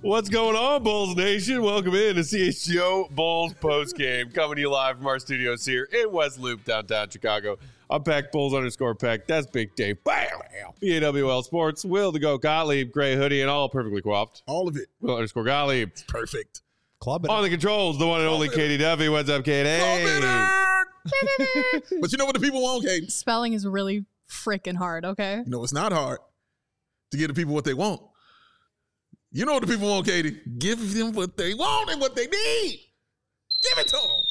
What's going on, Bulls Nation? Welcome in to CHGO Bulls postgame. Coming to you live from our studios here in West Loop, downtown Chicago. I'm Peck, Bulls_Peck. That's Big Dave. Bam! BAWL Sports. Will the Go Gottlieb, gray hoodie, and all perfectly coiffed. All of it. Will_Gottlieb. It's perfect. Club it. On the controls, the one and only Katie Duffy. What's up, Katie? But you know what the people want, Katie? Spelling is really freaking hard, okay? You know, it's not hard to give the people what they want. You know what the people want, Katie? Give them what they want and what they need. Give it to them.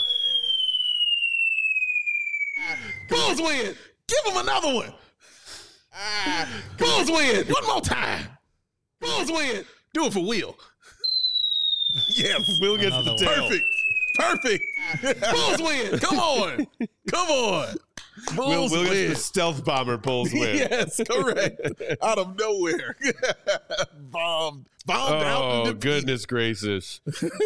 Bulls win. Give them another one. Bulls win. One more time. Bulls win. Do it for Will. Yeah, Will gets the tail. Perfect. Bulls win. Come on. Bulls Will win. gets the stealth bomber. Bulls win. Yes, correct. Out of nowhere. Bombed out. Oh, goodness gracious.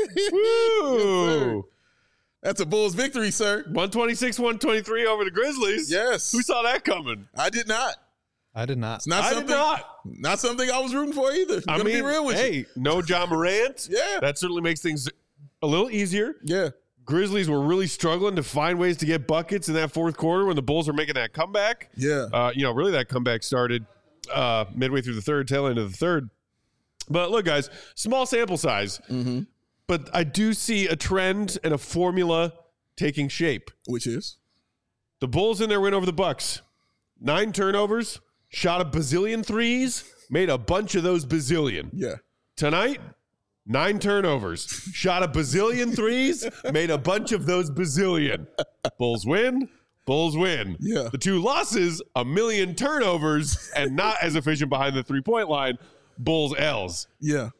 Woo. That's a Bulls victory, sir. 126-123 over the Grizzlies. Yes. Who saw that coming? I did not. I did not. It's not I something, did not. Not something I was rooting for either. I'm gonna be real with you. Hey, no John Morant. Yeah. That certainly makes things a little easier. Yeah. Grizzlies were really struggling to find ways to get buckets in that fourth quarter when the Bulls were making that comeback. Yeah. Really that comeback started midway through the third, tail end of the third. But look, guys, small sample size. Mm-hmm. But I do see a trend and a formula taking shape. Which is? The Bulls in their win over the Bucks. 9 turnovers, shot a bazillion threes, made a bunch of those bazillion. Yeah. Tonight, 9 turnovers, shot a bazillion threes, made a bunch of those bazillion. Bulls win. Yeah. The 2 losses, a million turnovers, and not as efficient behind the 3-point line. Bulls L's. Yeah.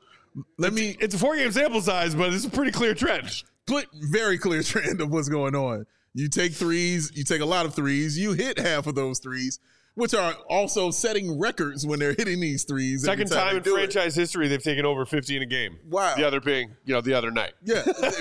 It's a 4-game sample size, but it's a pretty clear trend. Very clear trend of what's going on. You take threes, you take a lot of threes, you hit half of those threes, which are also setting records when they're hitting these threes. Second time in franchise history they've taken over 50 in a game. Wow. The other being, the other night. Yeah.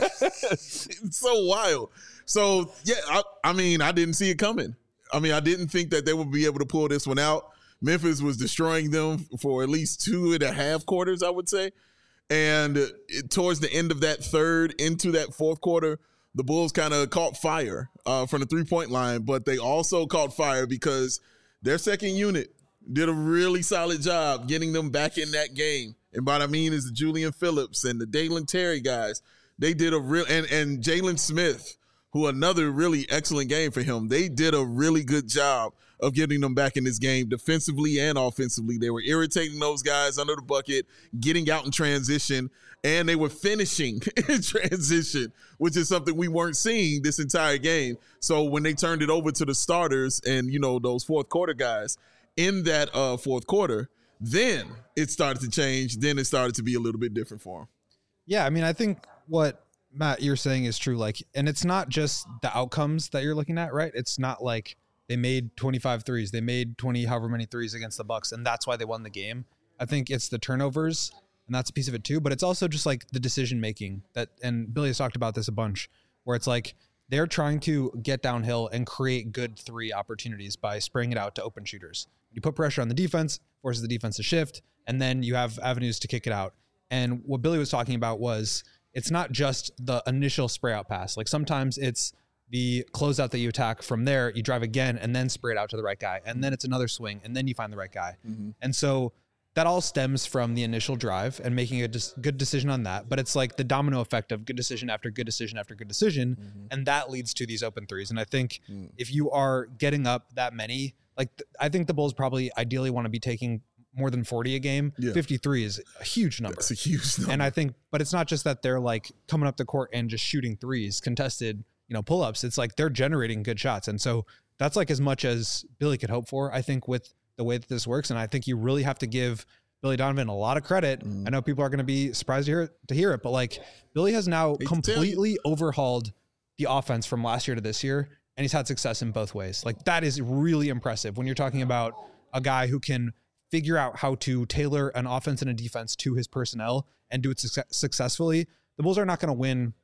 It's so wild. So, yeah, I mean, I didn't see it coming. I mean, I didn't think that they would be able to pull this one out. Memphis was destroying them for at least 2.5 quarters, I would say. And towards the end of that third into that fourth quarter, the Bulls kind of caught fire from the 3-point line, but they also caught fire because their second unit did a really solid job getting them back in that game. And what I mean is the Julian Phillips and the Dalen Terry guys, they did a real, and Jalen Smith, who another really excellent game for him. They did a really good job of getting them back in this game defensively and offensively. They were irritating those guys under the bucket, getting out in transition, and they were finishing in transition, which is something we weren't seeing this entire game. So when they turned it over to the starters and, those fourth quarter guys in that fourth quarter, then it started to change. Then it started to be a little bit different for them. Yeah, I mean, I think what Matt, you're saying is true. And it's not just the outcomes that you're looking at, right? It's not like they made 25 threes. They made 20, however many threes against the Bucks, and that's why they won the game. I think it's the turnovers, and that's a piece of it too. But it's also just like the decision making and Billy has talked about this a bunch, where it's like they're trying to get downhill and create good 3 opportunities by spraying it out to open shooters. You put pressure on the defense, forces the defense to shift, and then you have avenues to kick it out. And what Billy was talking about was it's not just the initial spray out pass. Like sometimes it's the closeout that you attack from there, you drive again and then spray it out to the right guy. And then it's another swing and then you find the right guy. Mm-hmm. And so that all stems from the initial drive and making a good decision on that. But it's like the domino effect of good decision after good decision after good decision. Mm-hmm. And that leads to these open threes. And I think if you are getting up that many, I think the Bulls probably ideally want to be taking more than 40 a game. Yeah. 53 is a huge number. It's a huge number. And I think, but it's not just that they're like coming up the court and just shooting threes, contested, pull-ups. It's like they're generating good shots. And so that's like as much as Billy could hope for, I think, with the way that this works. And I think you really have to give Billy Donovan a lot of credit. I know people are going to be surprised to hear it, but Billy has now completely overhauled the offense from last year to this year. And he's had success in both ways. That is really impressive when you're talking about a guy who can figure out how to tailor an offense and a defense to his personnel and do it successfully. The Bulls are not going to win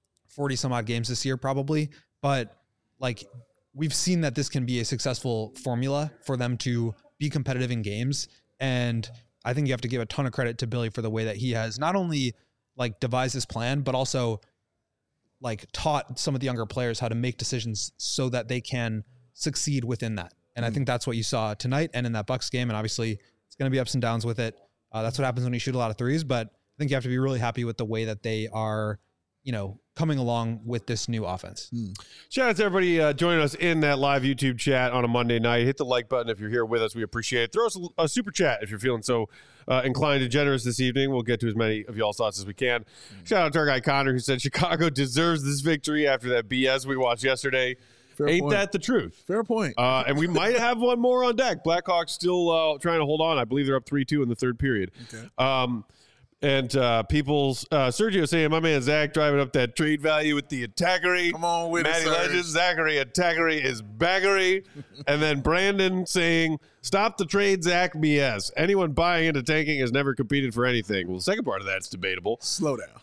40 some odd games this year probably, but we've seen that this can be a successful formula for them to be competitive in games. And I think you have to give a ton of credit to Billy for the way that he has not only like devised this plan, but also like taught some of the younger players how to make decisions so that they can succeed within that. And I think that's what you saw tonight and in that Bucks game. And obviously it's going to be ups and downs with it. That's what happens when you shoot a lot of threes, but I think you have to be really happy with the way that they are, coming along with this new offense. Shout out to everybody joining us in that live YouTube chat on a Monday night. Hit the like button if you're here with us. We appreciate it. Throw us a super chat if you're feeling so inclined and generous this evening. We'll get to as many of y'all's thoughts as we can. Shout out to our guy Connor, who said Chicago deserves this victory after that BS we watched yesterday. Fair Ain't point. that the truth? Fair point. And we might have one more on deck. Blackhawks still trying to hold on. I believe they're up 3-2 in the third period. Okay. And people's Sergio saying, my man Zach driving up that trade value with the attackery. Come on with Matty it, Serge. Legend, Zachary attackery is baggery. And then Brandon saying, stop the trade, Zach BS. Anyone buying into tanking has never competed for anything. Well, the second part of that's debatable. Slow down.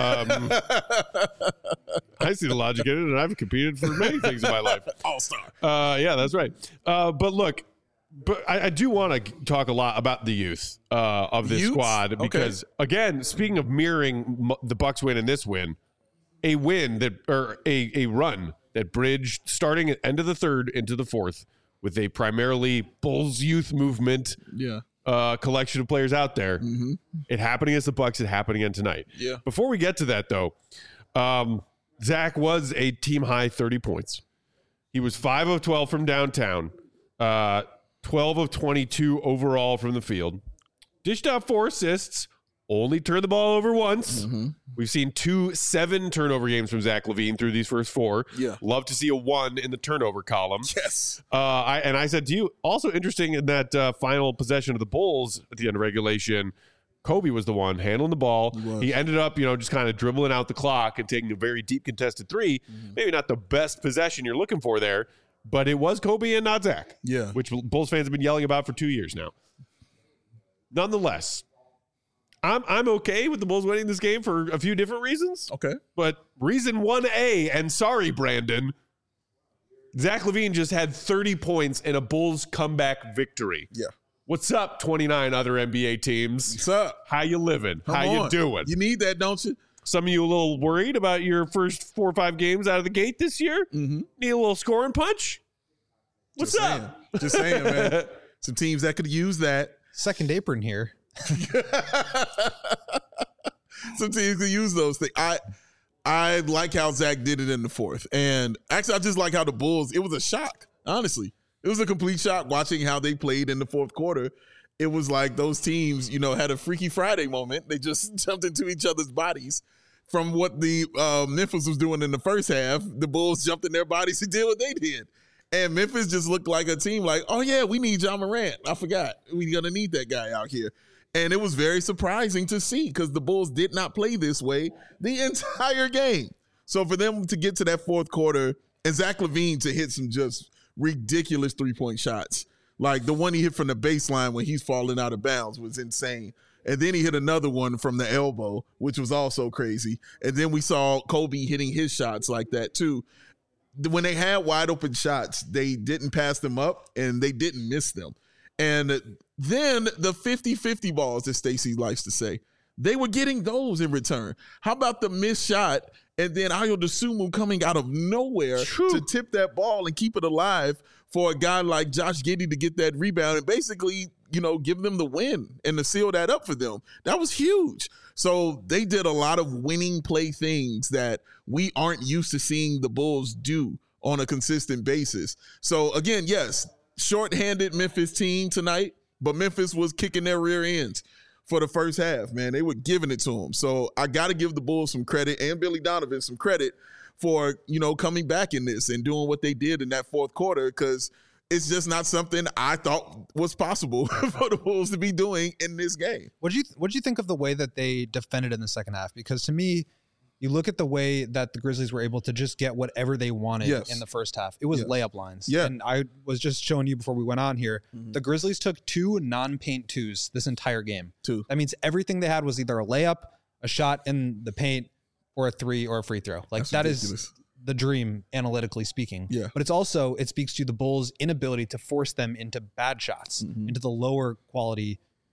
I see the logic in it, and I've competed for many things in my life. All-star. Yeah, that's right. But look, I do want to talk a lot about the youth of this squad because, again, speaking of mirroring the Bucks win and this win, a run that bridged starting at end of the third into the fourth with a primarily Bulls youth movement collection of players out there. Mm-hmm. It happened against the Bucks. It happened again tonight. Yeah. Before we get to that, though, Zach was a team high 30 points. He was 5 of 12 from downtown. 12 of 22 overall from the field. Dished out 4 assists. Only turned the ball over once. Mm-hmm. We've seen 2 7-turnover games from Zach LaVine through these first 4. Yeah. Love to see a 1 in the turnover column. Yes. I said to you, also interesting in that final possession of the Bulls at the end of regulation, Kobe was the one handling the ball. He ended up, just kind of dribbling out the clock and taking a very deep contested 3. Mm-hmm. Maybe not the best possession you're looking for there, but it was Kobe and not Zach. Yeah. Which Bulls fans have been yelling about for 2 years now. Nonetheless, I'm okay with the Bulls winning this game for a few different reasons. Okay. But reason 1A, and sorry, Brandon, Zach LaVine just had 30 points in a Bulls comeback victory. Yeah. What's up, 29 other NBA teams? What's up? How you living? How you doing? You need that, don't you? Some of you a little worried about your first 4 or 5 games out of the gate this year? Mm-hmm. Need a little scoring punch? What's up? Just saying, man. Some teams that could use that. Second apron here. Some teams could use those things. I like how Zach did it in the fourth. And actually, I just like how the Bulls, it was a shock, honestly. It was a complete shock watching how they played in the fourth quarter. It was like those teams, had a Freaky Friday moment. They just jumped into each other's bodies. From what the Memphis was doing in the first half, the Bulls jumped in their bodies and did what they did. And Memphis just looked like a team like, oh, yeah, we need John Morant. I forgot. We're going to need that guy out here. And it was very surprising to see because the Bulls did not play this way the entire game. So for them to get to that fourth quarter and Zach LaVine to hit some just ridiculous three-point shots, like the one he hit from the baseline when he's falling out of bounds was insane. And then he hit another one from the elbow, which was also crazy. And then we saw Kobe hitting his shots like that too. When they had wide open shots, they didn't pass them up and they didn't miss them. And then the 50-50 balls that Stacey likes to say, they were getting those in return. How about the missed shot and then Ayo Dosunmu coming out of nowhere to tip that ball and keep it alive for a guy like Josh Giddey to get that rebound and basically, give them the win and to seal that up for them. That was huge. So they did a lot of winning play things that we aren't used to seeing the Bulls do on a consistent basis. So again, yes, shorthanded Memphis team tonight, but Memphis was kicking their rear ends for the first half, man. They were giving it to them. So I got to give the Bulls some credit and Billy Donovan some credit for, coming back in this and doing what they did in that fourth quarter because it's just not something I thought was possible for the Bulls to be doing in this game. What'd you think of the way that they defended in the second half? Because to me, you look at the way that the Grizzlies were able to just get whatever they wanted in the first half. It was layup lines. Yeah. And I was just showing you before we went on here, the Grizzlies took 2 non-paint twos this entire game. 2. That means everything they had was either a layup, a shot in the paint, or a 3 or a free throw. Like that is the dream, analytically speaking. Yeah. But it speaks to the Bulls' inability to force them into bad shots, into the lower quality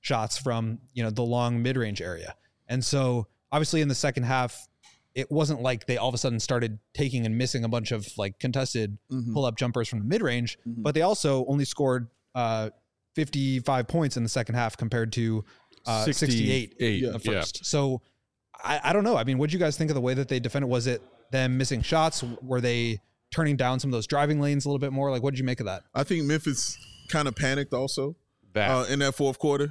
shots from, the long mid-range area. And so obviously in the second half, it wasn't like they all of a sudden started taking and missing a bunch of like contested pull-up jumpers from the mid-range, but they also only scored 55 points in the second half compared to 68 in the first. Yeah. So I don't know. I mean, what did you guys think of the way that they defended? Was it them missing shots? Were they turning down some of those driving lanes a little bit more? Like, what did you make of that? I think Memphis kind of panicked also in that fourth quarter.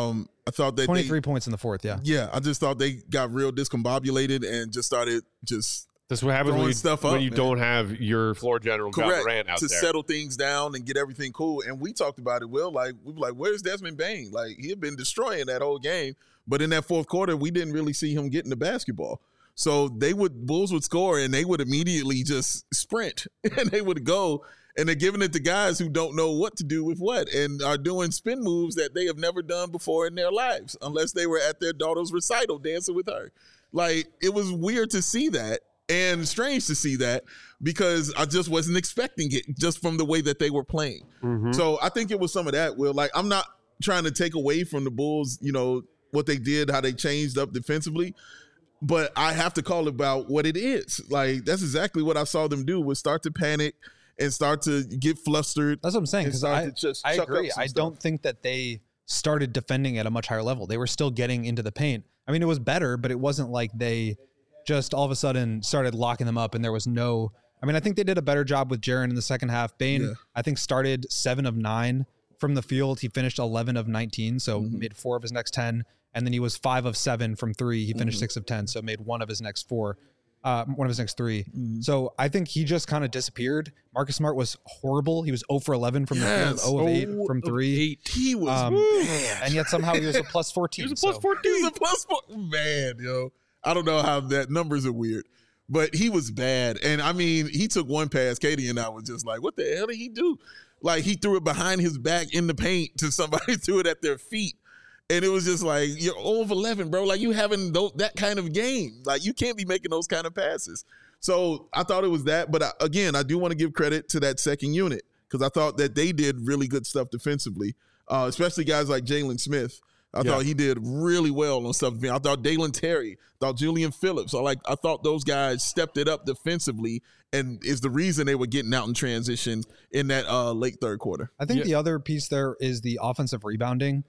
I thought that 23 points in the fourth. Yeah. Yeah. I just thought they got real discombobulated and just started That's what happens when you don't have your floor general Ja Morant out to there. settle things down and get everything cool. And we talked about it, Will. Like, we were like, where's Desmond Bane? Like, he had been destroying that whole game. But in that fourth quarter, we didn't really see him getting the basketball. So Bulls would score and they would immediately just sprint and they would go and they're giving it to guys who don't know what to do with what and are doing spin moves that they have never done before in their lives, unless they were at their daughter's recital dancing with her. Like, it was weird to see that and strange to see that because I just wasn't expecting it just from the way that they were playing. So I think it was some of that, Will. Like, I'm not trying to take away from the Bulls, what they did, how they changed up defensively. But I have to call it about what it is. Like, that's exactly what I saw them do, was start to panic and start to get flustered. That's what I'm saying, because I agree. I stuff. don't think that they started defending at a much higher level. They were still getting into the paint. I mean, it was better, but it wasn't like they just all of a sudden started locking them up and there was no – I mean, I think they did a better job with Jaren in the second half. Bane, I think, started 7 of 9 from the field. He finished 11 of 19, so made 4 of his next 10. And then he was 5 of 7 from 3. He finished 6 of 10, so made one of his next 4. One of his next 3. So I think he just kind of disappeared. Marcus Smart was horrible. He was 0 for 11 from the field, 0 of 8 from 3. He was bad. And yet somehow he was a plus 14. He was a plus 14. He was a plus 14. Man, yo. I don't know how that numbers are weird. But he was bad. And, I mean, he took one pass. Katie and I was just like, what the hell did he do? Like, he threw it behind his back in the paint to somebody, threw it at their feet. And it was just like, you're 0 of 11, bro. Like, you having that kind of game. Like, you can't be making those kind of passes. So I thought it was that. But again, I do want to give credit to that second unit because I thought that they did really good stuff defensively, especially guys like Jalen Smith. I thought he did really well on stuff. I thought Dalen Terry, thought Julian Phillips. I thought those guys stepped it up defensively and is the reason they were getting out in transition in that late third quarter. I think the other piece there is the offensive rebounding.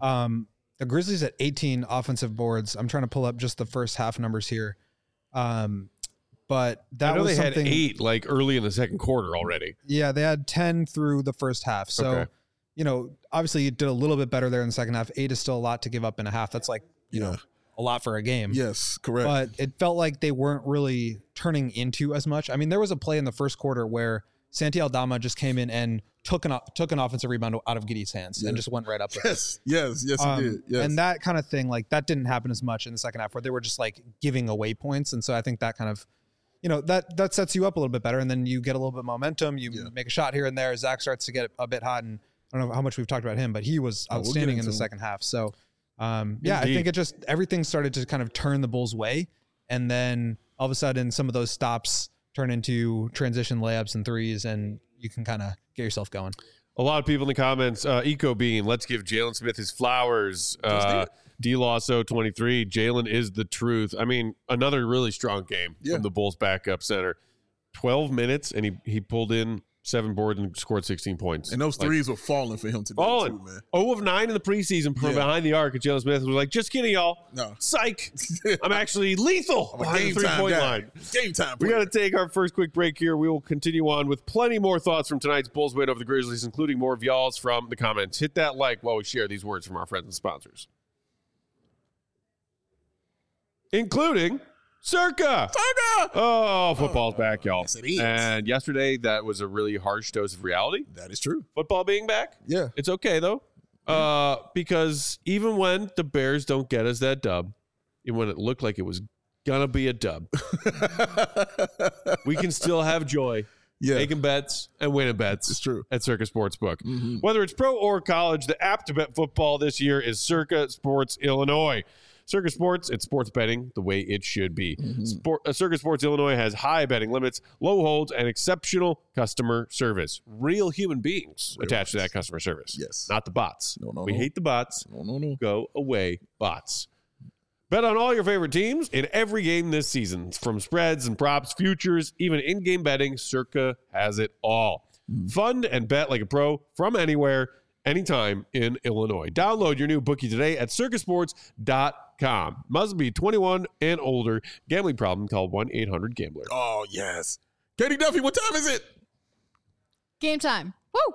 The Grizzlies at 18 offensive boards. I'm trying to pull up just the first half numbers here. But that was they something, had 8 like early in the second quarter already. Yeah, they had 10 through the first half. So, obviously you did a little bit better there in the second half. 8 is still a lot to give up in a half. That's like, a lot for a game. Yes, correct. But it felt like they weren't really turning into as much. I mean, there was a play in the first quarter where Santi Aldama just came in and took an offensive rebound out of Giddey's hands and just went right up with it. Yes, he did. Yes. And that kind of thing, like that didn't happen as much in the second half where they were just like giving away points. And so I think that kind of, that sets you up a little bit better. And then you get a little bit of momentum. You make a shot here and there. Zach starts to get a bit hot. And I don't know how much we've talked about him, but he was outstanding in the second half. So I think everything started to kind of turn the Bulls' way. And then all of a sudden some of those stops turn into transition layups and threes, and you can kind of get yourself going. A lot of people in the comments, Eco Bean, let's give Jalen Smith his flowers. D-Lasso 23, Jalen is the truth. I mean, another really strong game from the Bulls backup center. 12 minutes, and he pulled in 7 boards and scored 16 points. And those threes were falling for him today, too, man. 0 of 9 in the preseason from behind the arc. And Jalen Smith was like, just kidding, y'all. No. Psych. I'm actually lethal behind the 3-point line. Game time. We got to take our first quick break here. We will continue on with plenty more thoughts from tonight's Bulls win over the Grizzlies, including more of y'all's from the comments. Hit that like while we share these words from our friends and sponsors. Including Circa. Oh, football's back, y'all. Yes, it is. And yesterday, that was a really harsh dose of reality. That is true. Football being back. Yeah. It's okay, though. Because even when the Bears don't get us that dub, even when it looked like it was going to be a dub, we can still have joy. Making bets and winning bets. It's true. At Circa Sportsbook. Whether it's pro or college, the app to bet football this year is Circa Sports Illinois. Circus Sports, it's sports betting the way it should be. Circus Sports Illinois has high betting limits, low holds, and exceptional customer service. Real human beings attached to that customer service. Yes. Not the bots. No, We hate the bots. No. Go away, bots. Bet on all your favorite teams in every game this season. From spreads and props, futures, even in-game betting, Circa has it all. Fund and bet like a pro from anywhere, anytime in Illinois. Download your new bookie today at circusports.com. Must be 21 and older. Gambling problem, call 1-800-GAMBLER. Oh, yes. Katie Duffy, what time is it? Game time. Woo!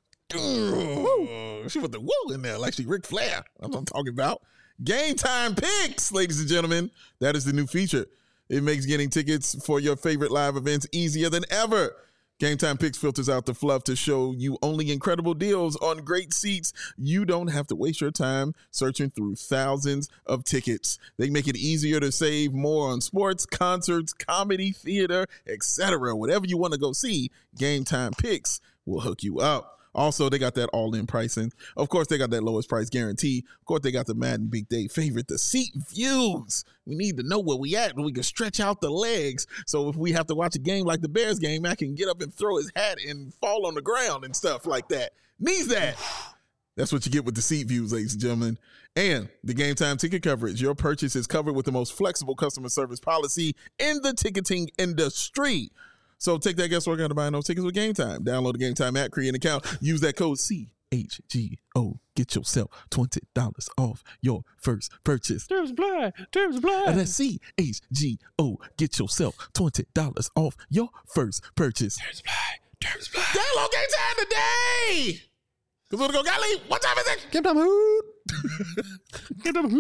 She put the woo in there like she Ric Flair. That's what I'm talking about. Game Time Picks, ladies and gentlemen. That is the new feature. It makes getting tickets for your favorite live events easier than ever. Game Time Picks filters out the fluff to show you only incredible deals on great seats. You don't have to waste your time searching through thousands of tickets. They make it easier to save more on sports, concerts, comedy, theater, etc. Whatever you want to go see, Game Time Picks will hook you up. Also, they got that all-in pricing. Of course, they got that lowest price guarantee. Of course, they got the Madden Big Day favorite, the seat views. We need to know where we at, and we can stretch out the legs. So if we have to watch a game like the Bears game, Matt can get up and throw his hat and fall on the ground and stuff like that. Needs that. That's what you get with the seat views, ladies and gentlemen. And the Game Time ticket coverage. Your purchase is covered with the most flexible customer service policy in the ticketing industry. So take that guesswork out of buying those tickets with Game Time. Download the Game Time app, create an account, use that code CHGO. Get yourself $20 off your first purchase. Terms apply. That's CHGO. Get yourself $20 off your first purchase. Terms apply. Download Game Time today. Cause we're gonna go Galilee. What time is it? Game time hoot. Get them.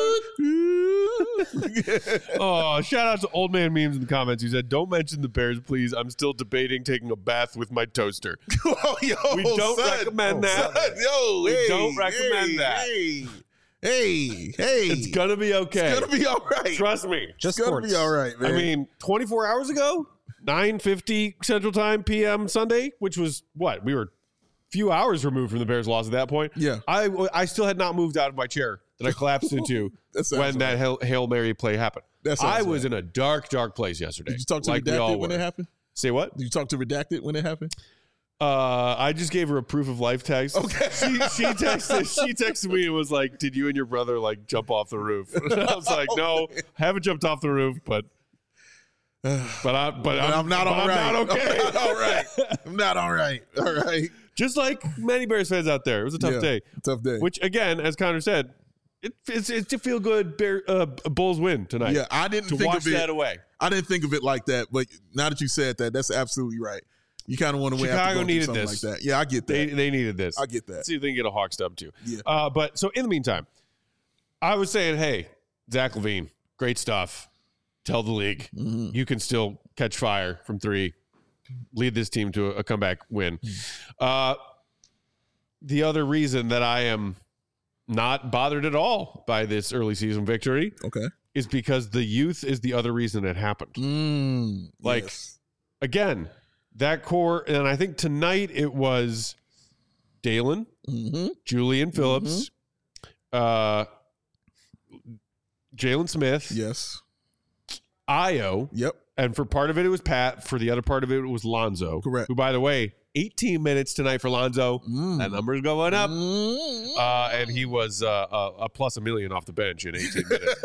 Oh, shout out to Old Man Memes in the comments. He said, "Don't mention the Bears, please. I'm still debating taking a bath with my toaster." Oh, yo, We don't recommend that. Yo, We hey, don't recommend that. Hey. It's gonna be okay. It's gonna be all right. Trust me. Just It's gonna sports. be all right, man. I mean, 24 hours ago, 9:50 Central Time p.m. Sunday, which was what? We were few hours removed from the Bears' loss at that point. Yeah. I still had not moved out of my chair that I collapsed into That sounds when that Hail Mary play happened. That sounds I was right. in a dark place yesterday. Did you talk to like we all Redacted when were. it happened? Say what? Did you talk to Redacted when it happened? I just gave her a proof of life text. Okay. She texted me and was like, "Did you and your brother like jump off the roof?" And I was like, "No, haven't jumped off the roof, but I'm not all right. I'm not okay. I'm not all right. I'm not all right. All right. Just like many Bears fans out there, it was a tough day. Tough day. Which again, as Connor said, it's a feel good Bulls win tonight. Yeah, I didn't to think wash of it. that away. I didn't think of it like that, but now that you said that, that's absolutely right. You kind of want to win after Chicago going through needed something this. like that. Yeah, I get that. They needed this. I get that. See if they can get a Hawks dub too. Yeah. But so in the meantime, I was saying, hey, Zach LaVine, great stuff. Tell the league you can still catch fire from three, lead this team to a comeback win. The other reason that I am not bothered at all by this early season victory Okay. is because the youth is the other reason it happened. Like, yes. Again, that core, and I think tonight it was Dalen, Julian Phillips, Jalen Smith, Yes. Io, Yep. and for part of it was Pat. For the other part of it was Lonzo. Correct. Who, by the way, 18 minutes tonight for Lonzo. That number's going up. And he was a plus $1 million off the bench in 18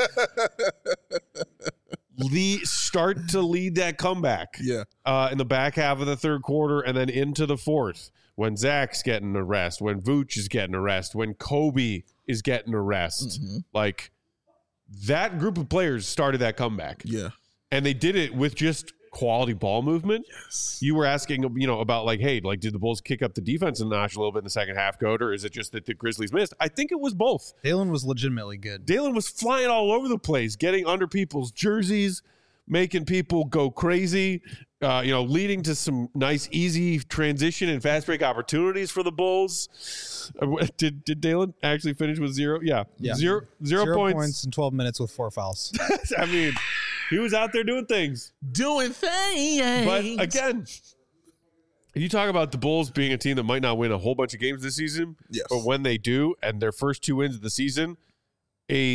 minutes. Start to lead that comeback. Yeah. In the back half of the third quarter and then into the fourth, when Zach's getting a rest, when Vooch is getting a rest, when Kobe is getting a rest. Like, that group of players started that comeback. Yeah. And they did it with just quality ball movement. Yes. You were asking, about like, hey, like, did the Bulls kick up the defense a notch a little bit in the second half, Goat, or is it just that the Grizzlies missed? I think it was both. Dalen was legitimately good. Dalen was flying all over the place, getting under people's jerseys, making people go crazy, leading to some nice, easy transition and fast break opportunities for the Bulls. Did Dalen actually finish with zero? Yeah. Zero points in 12 minutes with 4 fouls. I mean, he was out there doing things. Doing things. But again, you talk about the Bulls being a team that might not win a whole bunch of games this season. Yes. But when they do, and their first 2 wins of the season, a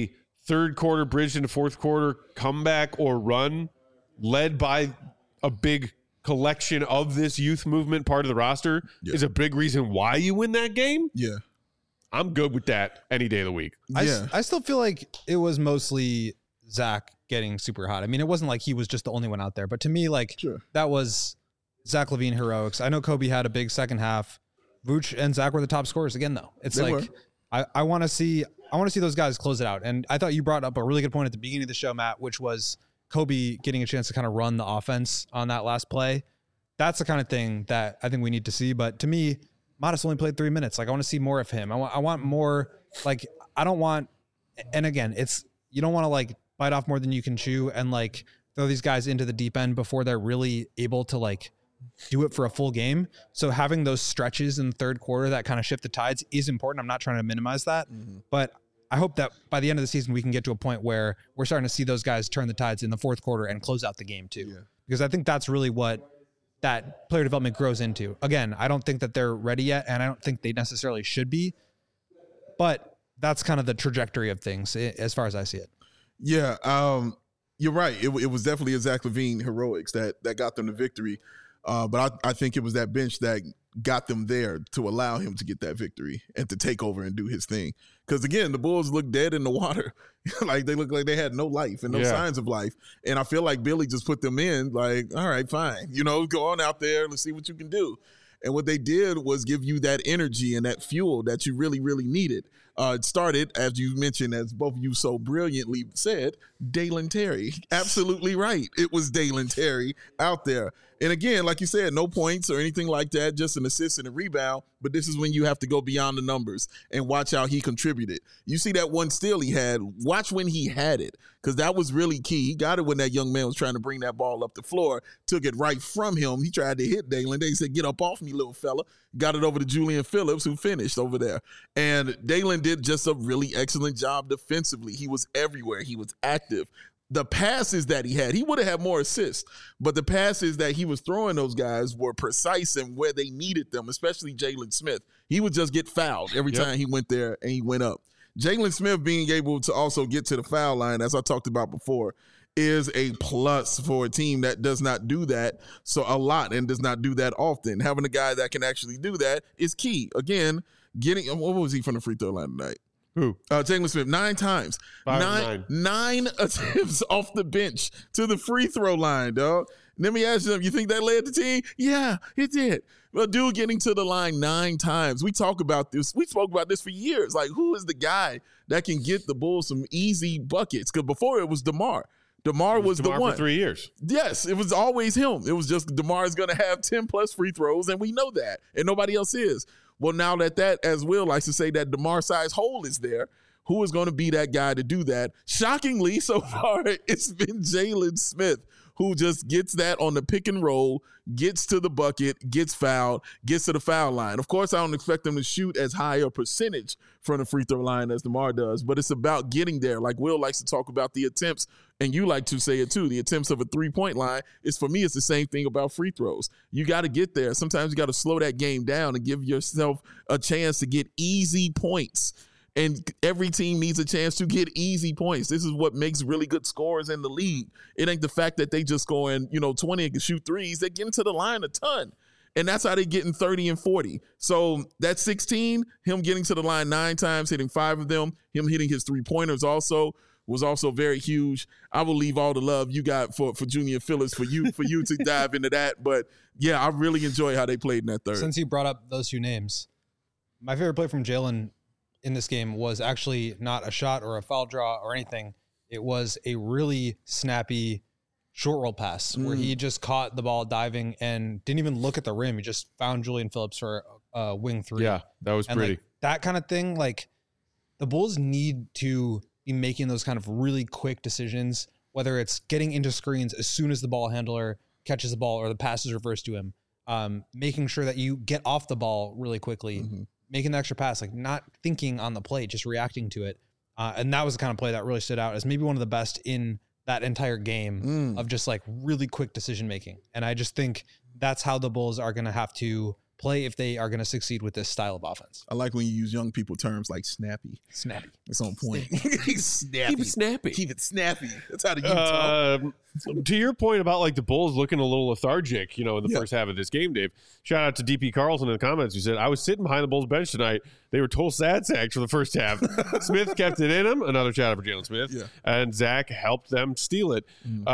third quarter bridge into fourth quarter comeback or run led by a big collection of this youth movement part of the roster is a big reason why you win that game. Yeah. I'm good with that any day of the week. I still feel like it was mostly Zach getting super hot. I mean, it wasn't like he was just the only one out there, but to me, like that was Zach LaVine heroics. I know Kobe had a big second half. Vooch and Zach were the top scorers again, though. It's They like I want to see those guys close it out. And I thought you brought up a really good point at the beginning of the show, Matt, which was Kobe getting a chance to kind of run the offense on that last play. That's the kind of thing that I think we need to see. But to me, Modest only played 3 minutes. Like, I want to see more of him. I want more. Like, I don't want. And again, you don't want to like bite off more than you can chew and like throw these guys into the deep end before they're really able to like do it for a full game. So having those stretches in the third quarter that kind of shift the tides is important. I'm not trying to minimize that, but I hope that by the end of the season, we can get to a point where we're starting to see those guys turn the tides in the fourth quarter and close out the game too. Because I think that's really what that player development grows into. Again, I don't think that they're ready yet, and I don't think they necessarily should be, but that's kind of the trajectory of things as far as I see it. Yeah, you're right. It was definitely a Zach LaVine heroics that got them the victory. But I think it was that bench that got them there to allow him to get that victory and to take over and do his thing. Because, again, the Bulls looked dead in the water. Like, they looked like they had no life and no signs of life. And I feel like Billy just put them in like, all right, fine. Go on out there. Let's see what you can do. And what they did was give you that energy and that fuel that you really, really needed. It started, as you mentioned, as both of you so brilliantly said, Dalen Terry. Absolutely right. It was Dalen Terry out there. And again, like you said, no points or anything like that, just an assist and a rebound. But this is when you have to go beyond the numbers and watch how he contributed. You see that one steal he had. Watch when he had it, because that was really key. He got it when that young man was trying to bring that ball up the floor, took it right from him. He tried to hit Dalen. They said, get up off me, little fella. Got it over to Julian Phillips, who finished over there. And Dalen did just a really excellent job defensively. He was everywhere. He was active. The passes that he had, he would have had more assists, but the passes that he was throwing those guys were precise and where they needed them, especially Jalen Smith. He would just get fouled every time he went there and he went up. Jalen Smith being able to also get to the foul line, as I talked about before, is a plus for a team that does not do that so a lot and does not do that often. Having a guy that can actually do that is key. Again, what was he from the free throw line tonight? Who? Jalen Smith, 9 times. 9 attempts off the bench to the free throw line, dog. Let me ask you, you think that led the team? Yeah, it did. Well, dude getting to the line 9 times. We talk about this. We spoke about this for years. Like, who is the guy that can get the Bulls some easy buckets? Because before it was DeMar. DeMar was the one. For 3 years. Yes, it was always him. It was just DeMar is going to have 10-plus free throws, and we know that, and nobody else is. Well, now that, as Will likes to say, that DeMar-sized hole is there, who is going to be that guy to do that? Shockingly, so far, it's been Jalen Smith, who just gets that on the pick and roll, gets to the bucket, gets fouled, gets to the foul line. Of course, I don't expect them to shoot as high a percentage from the free throw line as DeMar does, but it's about getting there. Like Will likes to talk about the attempts, and you like to say it too, the attempts of a three-point line. For me, it's the same thing about free throws. You got to get there. Sometimes you got to slow that game down and give yourself a chance to get easy points. And every team needs a chance to get easy points. This is what makes really good scorers in the league. It ain't the fact that they just scoring, 20 and can shoot threes. They get into the line a ton. And that's how they getting 30 and 40. So that 16, him getting to the line 9 times, hitting 5 of them, him hitting his 3-pointers was also very huge. I will leave all the love you got for Julian Phillips for you to dive into that. But yeah, I really enjoy how they played in that third. Since you brought up those 2 names, my favorite play from Jalen in this game was actually not a shot or a foul draw or anything. It was a really snappy short roll pass where he just caught the ball diving and didn't even look at the rim. He just found Julian Phillips for a wing 3. Yeah, that was pretty. Like, that kind of thing, like the Bulls need to be making those kind of really quick decisions, whether it's getting into screens as soon as the ball handler catches the ball or the pass is reversed to him, making sure that you get off the ball really quickly, making the extra pass, like not thinking on the play, just reacting to it. And that was the kind of play that really stood out as maybe one of the best in that entire game of just like really quick decision making. And I just think that's how the Bulls are going to have to play if they are going to succeed with this style of offense. I like when you use young people terms like snappy. Snappy. It's on point. Snappy. Keep it snappy. Keep it snappy. That's how the youth talk. To your point about like the Bulls looking a little lethargic, in the first half of this game, Dave. Shout out to DP Carlson in the comments who said, "I was sitting behind the Bulls bench tonight. They were total sad sacks for the first half. Smith kept it in him." Another shout out for Jalen Smith. Yeah. And Zach helped them steal it.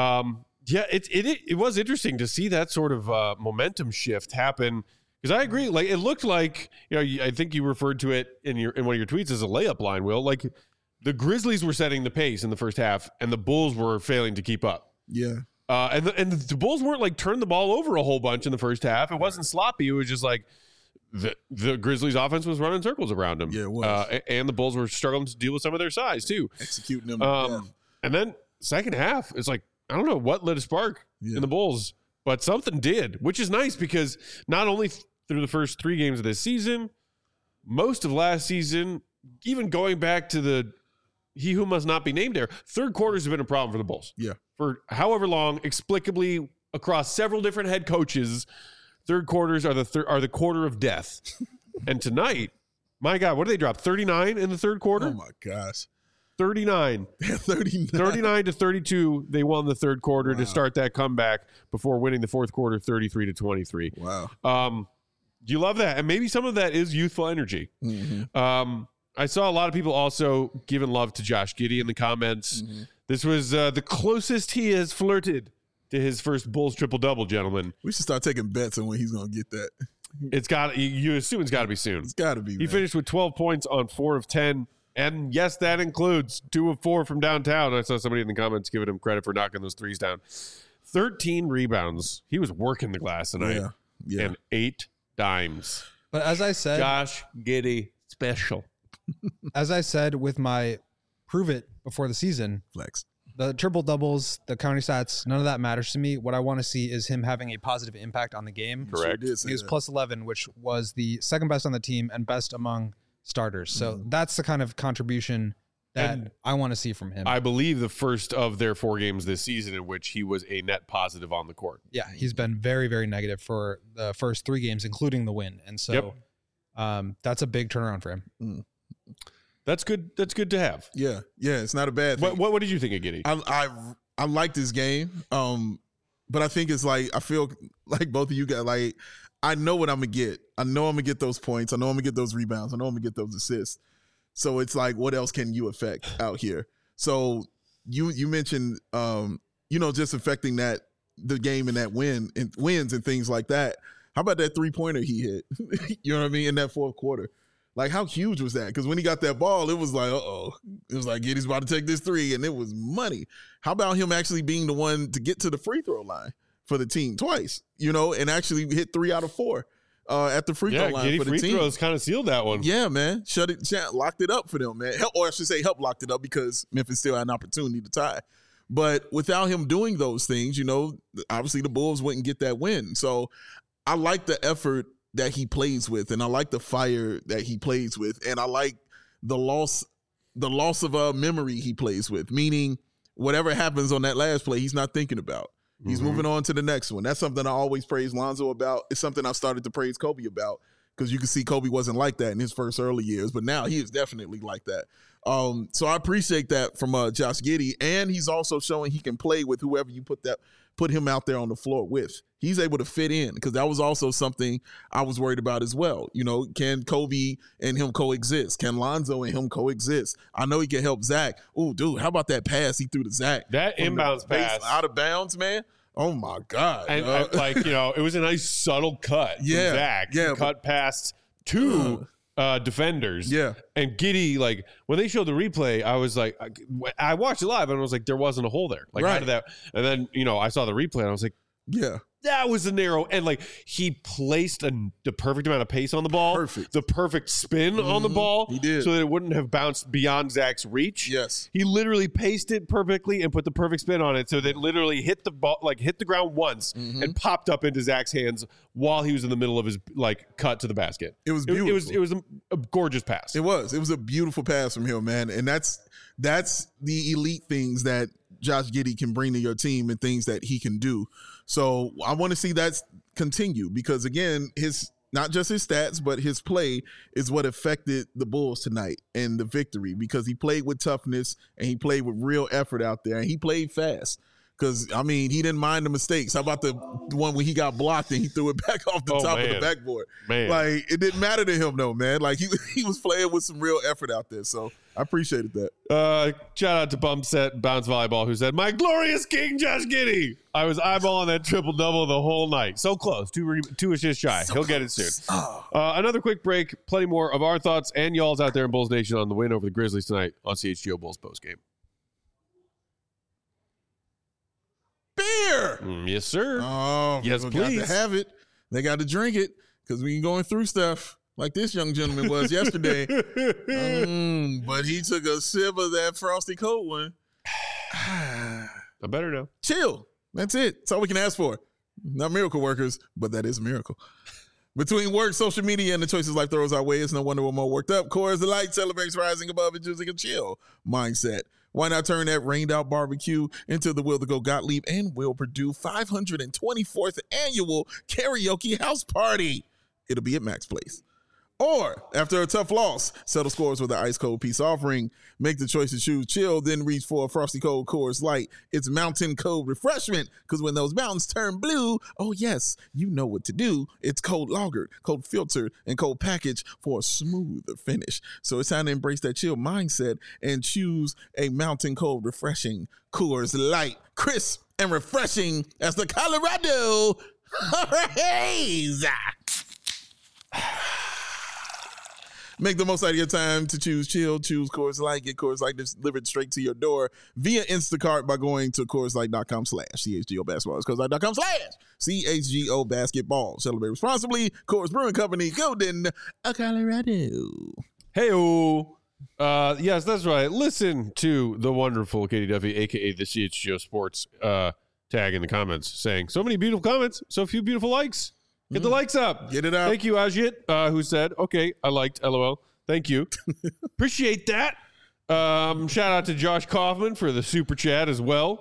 It was interesting to see that sort of momentum shift happen. Because I agree, like it looked like I think you referred to it in one of your tweets as a layup line. Will, like the Grizzlies were setting the pace in the first half, and the Bulls were failing to keep up. Yeah, and the Bulls weren't like turning the ball over a whole bunch in the first half. It wasn't sloppy. It was just like the Grizzlies' offense was running circles around them. Yeah, it was. And the Bulls were struggling to deal with some of their size too, executing them. And then second half, it's like I don't know what lit a spark in the Bulls, but something did, which is nice because not only through the first 3 games of this season, most of last season, even going back to the he who must not be named there, third quarters have been a problem for the Bulls. Yeah. For however long, explicably across several different head coaches, third quarters are the quarter of death. And tonight, my God, what did they drop? 39 in the third quarter? Oh my gosh. 39. 39 to 32. They won the third quarter to start that comeback before winning the fourth quarter 33 to 23. Wow. Do you love that? And maybe some of that is youthful energy. Mm-hmm. I saw a lot of people also giving love to Josh Giddey in the comments. Mm-hmm. This was the closest he has flirted to his first Bulls triple-double, gentlemen. We should start taking bets on when he's going to get that. It's got. You assume it's got to be soon. It's got to be, He finished with 12 points on 4 of 10. And yes, that includes 2 of 4 from downtown. I saw somebody in the comments giving him credit for knocking those threes down. 13 rebounds. He was working the glass tonight. Yeah. And 8 dimes. But as I said, Josh Giddey special. As I said with my prove it before the season, Flex. the triple doubles, the county stats, none of that matters to me. What I want to see is him having a positive impact on the game. Correct. Sure He was plus 11, which was the second best on the team and best among starters. So that's the kind of contribution that I want to see from him. I believe the first of their 4 games this season in which he was a net positive on the court. Yeah, he's been very, very negative for the first 3 games, including the win. And so that's a big turnaround for him. That's good. That's good to have. Yeah. It's not a bad thing. What did you think of Giddey? I like this game, but I think it's like I feel like both of you guys like I know what I'm gonna get. I know I'm gonna get those points. I know I'm gonna get those rebounds. I know I'm gonna get those assists. So it's like, what else can you affect out here? So you mentioned just affecting the game and that wins and things like that. How about that 3-pointer he hit? You know what I mean? In that fourth quarter. Like, how huge was that? Because when he got that ball, it was like, It was like, Giddey's about to take this 3, and it was money. How about him actually being the one to get to the free throw line for the team twice, and actually hit 3 out of 4 at the free throw line Giddey for the free team. throws kind of sealed that one. Yeah, man. Locked it up for them, man. Help locked it up because Memphis still had an opportunity to tie. But without him doing those things, obviously the Bulls wouldn't get that win. So I like the effort that he plays with, and I like the fire that he plays with, and I like the loss of memory he plays with, meaning whatever happens on that last play, he's not thinking about. He's moving on to the next one. That's something I always praise Lonzo about. It's something I've started to praise Kobe about, because you can see Kobe wasn't like that in his first early years, but now he is definitely like that. So I appreciate that from Josh Giddey, and he's also showing he can play with whoever you put him out there on the floor with. He's able to fit in, because that was also something I was worried about as well. Can Kobe and him coexist? Can Lonzo and him coexist? I know he can help Zach. Oh, dude, how about that pass he threw to Zach? That inbounds pass. Out of bounds, man. Oh, my God. And it was a nice subtle cut from Zach. Yeah. Cut past 2 defenders. Yeah. And Giddey, when they showed the replay, I was like, I watched it live and I was like, there wasn't a hole there. How Right. did that? And then, I saw the replay and I was like, yeah. that was a narrow, and he placed the perfect amount of pace on the ball. Perfect. The perfect spin on the ball. He did. So that it wouldn't have bounced beyond Zach's reach. Yes. He literally paced it perfectly and put the perfect spin on it so that it literally hit the ball, hit the ground once and popped up into Zach's hands while he was in the middle of his cut to the basket. It was beautiful. It was a gorgeous pass. It was a beautiful pass from him, man. And that's the elite things that Josh Giddey can bring to your team and things that he can do. So I want to see that continue, because again, his not just his stats, but his play is what affected the Bulls tonight and the victory, because he played with toughness and he played with real effort out there, and he played fast. Because, I mean, he didn't mind the mistakes. How about the one when he got blocked and he threw it back off the top of the backboard? Man. Like, it didn't matter to him, though, man. Like, he was playing with some real effort out there. So I appreciated that. Shout out to Bump Set Bounce Volleyball, who said, "My glorious king, Josh Giddey. I was eyeballing that triple-double the whole night. So close. Two assists shy. He'll get it soon." Another quick break. Plenty more of our thoughts and y'all's out there in Bulls Nation on the win over the Grizzlies tonight on CHGO Bulls postgame. Beer. Yes, sir. Oh, yes, people please. got to have it. They got to drink it, because we ain't going through stuff like this young gentleman was yesterday. But he took a sip of that frosty cold one. I'm better now. Chill. That's it. That's all we can ask for. Not miracle workers, but that is a miracle. Between work, social media, and the choices life throws our way, it's no wonder we're more worked up. Coors the Light celebrates rising above and choosing a chill mindset. Why not turn that rained out barbecue into the Will to Go Gottlieb and Will Purdue 524th annual karaoke house party? It'll be at Max Place. Or, after a tough loss, settle scores with an ice cold peace offering. Make the choice to choose chill, then reach for a frosty cold Coors Light. It's mountain cold refreshment, because when those mountains turn blue, oh yes, you know what to do. It's cold lagered, cold filtered, and cold packaged for a smoother finish. So it's time to embrace that chill mindset and choose a mountain cold refreshing Coors Light. Crisp and refreshing as the Colorado Hurricanes. Make the most out of your time to choose chill. Choose Coors Light. Get Coors Light delivered straight to your door via Instacart by going to CoorsLight.com/CHGO Basketball. It's CoorsLight.com/CHGO Basketball. Celebrate responsibly. Coors Brewing Company, Golden, Colorado. Hey-o. Yes, that's right. Listen to the wonderful Katie Duffy, a.k.a. the CHGO Sports tag in the comments saying, so many beautiful comments, so few beautiful likes. Get the likes up. Get it out. Thank you, Ajit, who said, okay, I liked, LOL. Thank you. Appreciate that. Shout out to Josh Kaufman for the super chat as well.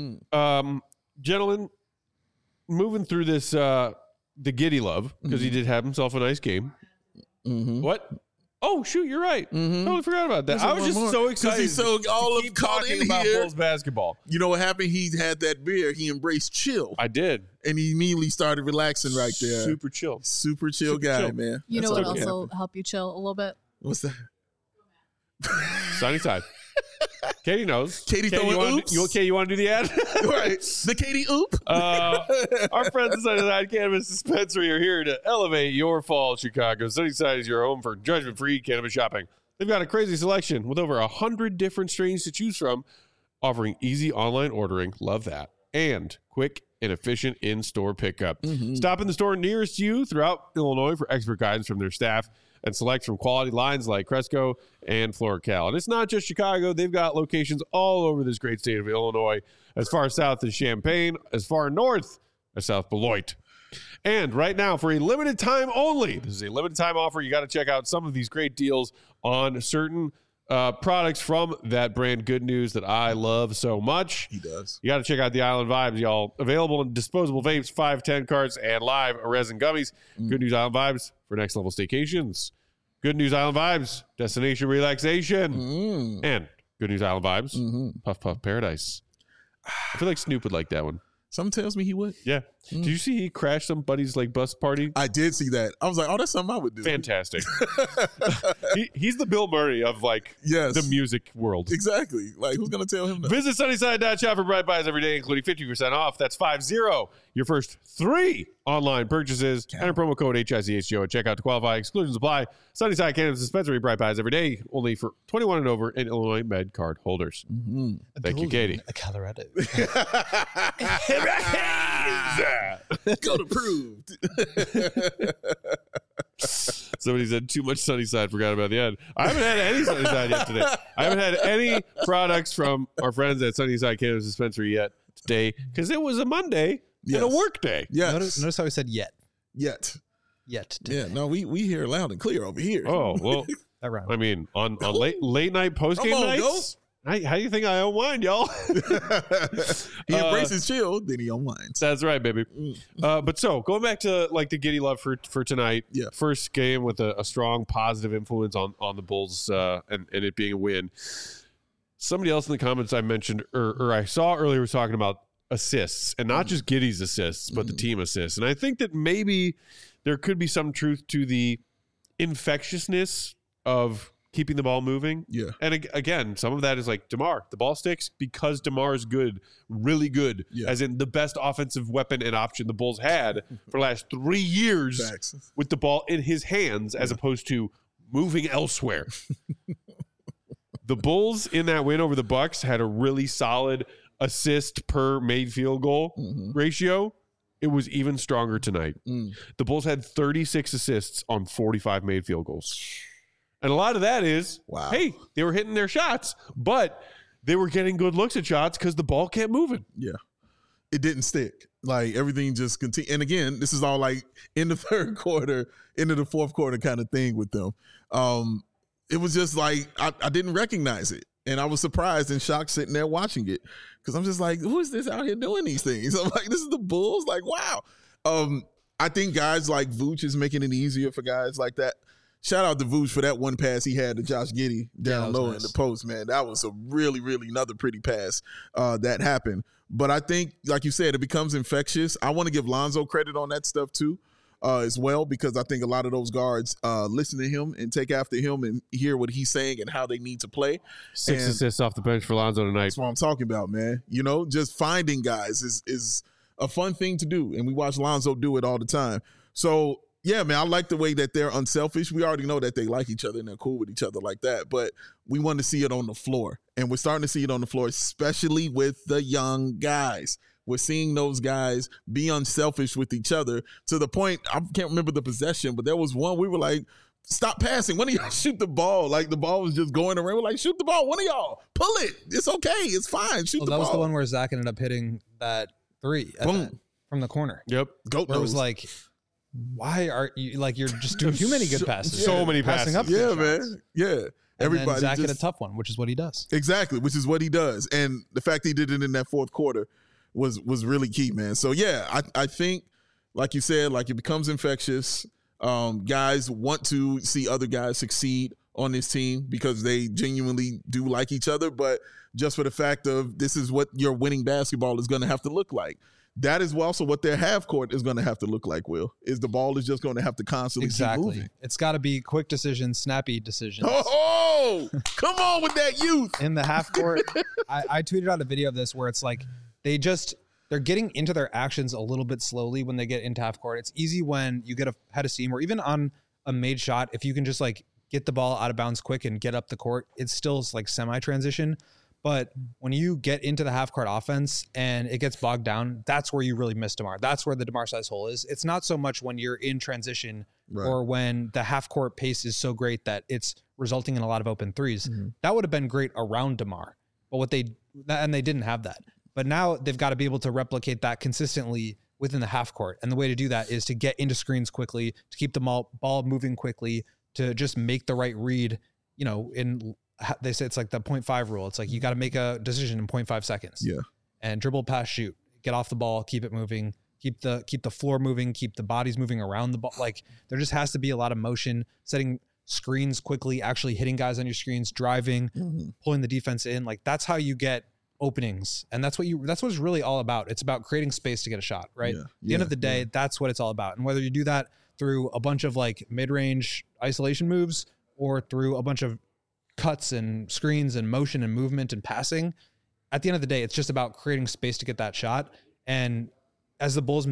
Gentlemen, moving through this, the Giddey love, because he did have himself a nice game. What? Oh, shoot, you're right. Totally forgot about that. I was just so excited. He's so all of caught in about here. Bulls basketball. You know what happened? He had that beer. He embraced chill. I did. And he immediately started relaxing right there. Super chill. Super chill guy, man. You know That's what okay. also help you chill a little bit? What's that? Sunny side. Katie knows. Katie throwing oops. You want to do the ad? Right. The Katie oop. Our friends at Sunnyside Cannabis Dispensary are here to elevate your fall, Chicago. Sunnyside is your home for judgment-free cannabis shopping. They've got a crazy selection with over 100 different strains to choose from, offering easy online ordering. Love that. And quick and efficient in-store pickup. Stop in the store nearest you throughout Illinois for expert guidance from their staff and select from quality lines like Cresco and FloraCal. And it's not just Chicago. They've got locations all over this great state of Illinois, as far south as Champaign, as far north as South Beloit. And right now, for a limited time only, this is a limited time offer. You got to check out some of these great deals on certain products from that brand Good News that I love so much. He does. You got to check out the Island Vibes, y'all. Available in disposable vapes, 510 carts, and live resin gummies. Good News Island Vibes for next level staycations. Good News Island Vibes, destination relaxation. And Good News Island Vibes, Puff Puff Paradise. I feel like Snoop would like that one. Something tells me he would. Yeah. Did you see he crashed somebody's like bus party? I did see that. I was like, oh, that's something I would do. Fantastic. He's the Bill Murray of like the music world. Exactly. Like, who's going to tell him that? Visit Sunnyside.shop for bright buys every day, including 50% off. That's 50. Your first 3 online purchases. Enter promo code HICHGO at checkout to qualify. Exclusions apply. Sunnyside Cannabis Dispensary, bright buys every day, only for 21 and over and Illinois Med card holders. Thank you, Katie. Colorado. Go to proved. Somebody said too much Sunnyside, forgot about the end. I haven't had any Sunnyside yet today. I haven't had any products from our friends at Sunnyside Cannabis Dispensary yet today because it was a Monday and a work day. Yes. Notice how I said yet. Yet. Today. Yeah, no, we hear loud and clear over here. Oh, well, That round. I mean, on late night post game nights, How do you think I unwind, y'all? He embraces chill, then he unwinds. That's right, baby. But so going back to like the Giddey love for tonight. Yeah. First game with a strong positive influence on the Bulls and it being a win. Somebody else in the comments I mentioned or I saw earlier was talking about assists and not just Giddey's assists, but the team assists. And I think that maybe there could be some truth to the infectiousness of keeping the ball moving. Yeah. And again, some of that is like DeMar. The ball sticks because DeMar is good, really good, as in the best offensive weapon and option the Bulls had for the last 3 years. Facts. With the ball in his hands as opposed to moving elsewhere. The Bulls in that win over the Bucks had a really solid assist per made field goal ratio. It was even stronger tonight. The Bulls had 36 assists on 45 made field goals. And a lot of that is, hey, they were hitting their shots, but they were getting good looks at shots because the ball kept moving. Yeah. It didn't stick. Like everything just continued. And again, this is all like in the third quarter, into the fourth quarter kind of thing with them. It was just like, I didn't recognize it. And I was surprised and shocked sitting there watching it because I'm just like, who is this out here doing these things? I'm like, this is the Bulls? Like, wow. I think guys like Vooch is making it easier for guys like that. Shout out to Vooch for that one pass he had to Josh Giddey down low in the post, man. That was a really, really another pretty pass that happened. But I think, like you said, it becomes infectious. I want to give Lonzo credit on that stuff too as well because I think a lot of those guards listen to him and take after him and hear what he's saying and how they need to play. 6 assists off the bench for Lonzo tonight. That's what I'm talking about, man. You know, just finding guys is a fun thing to do, and we watch Lonzo do it all the time. So, yeah, man, I like the way that they're unselfish. We already know that they like each other and they're cool with each other like that, but we want to see it on the floor. And we're starting to see it on the floor, especially with the young guys. We're seeing those guys be unselfish with each other to the point, I can't remember the possession, but there was one we were like, stop passing. One of y'all shoot the ball. Like the ball was just going around. We're like, shoot the ball. One of y'all, pull it. It's okay. It's fine. Shoot the ball. That was the one where Zach ended up hitting that three from the corner. Yep. Goat where it was like, why are you like you're just doing too many good passes? So many passes. Up yeah, man. Yeah. Everybody. Zach hit a tough one, which is what he does. Exactly, which is what he does. And the fact he did it in that fourth quarter was really key, man. So yeah, I think, like you said, like it becomes infectious. Guys want to see other guys succeed on this team because they genuinely do like each other, but just for the fact of this is what your winning basketball is going to have to look like. That is also what their half court is going to have to look like, Will, is the ball is just going to have to constantly keep moving. It's got to be quick decisions, snappy decisions. Oh, come on with that youth. In the half court, I tweeted out a video of this where it's like they're getting into their actions a little bit slowly when they get into half court. It's easy when you get ahead of steam or even on a made shot, if you can just like get the ball out of bounds quick and get up the court, it's still like semi-transition. But when you get into the half-court offense and it gets bogged down, that's where you really miss DeMar. That's where the DeMar size hole is. It's not so much when you're in transition or when the half-court pace is so great that it's resulting in a lot of open threes. Mm-hmm. That would have been great around DeMar. But they didn't have that. But now they've got to be able to replicate that consistently within the half-court. And the way to do that is to get into screens quickly, to keep the ball moving quickly, to just make the right read, you know, they say it's like the 0.5 rule. It's like you got to make a decision in 0.5 seconds. Yeah. And dribble, pass, shoot. Get off the ball, keep it moving, keep the floor moving, keep the bodies moving around the ball. Like there just has to be a lot of motion, setting screens quickly, actually hitting guys on your screens, driving, pulling the defense in. Like that's how you get openings. And that's what it's really all about. It's about creating space to get a shot, right? At the end of the day, that's what it's all about. And whether you do that through a bunch of like mid-range isolation moves or through a bunch of cuts and screens and motion and movement and passing, at the end of the day, it's just about creating space to get that shot. And as the Bulls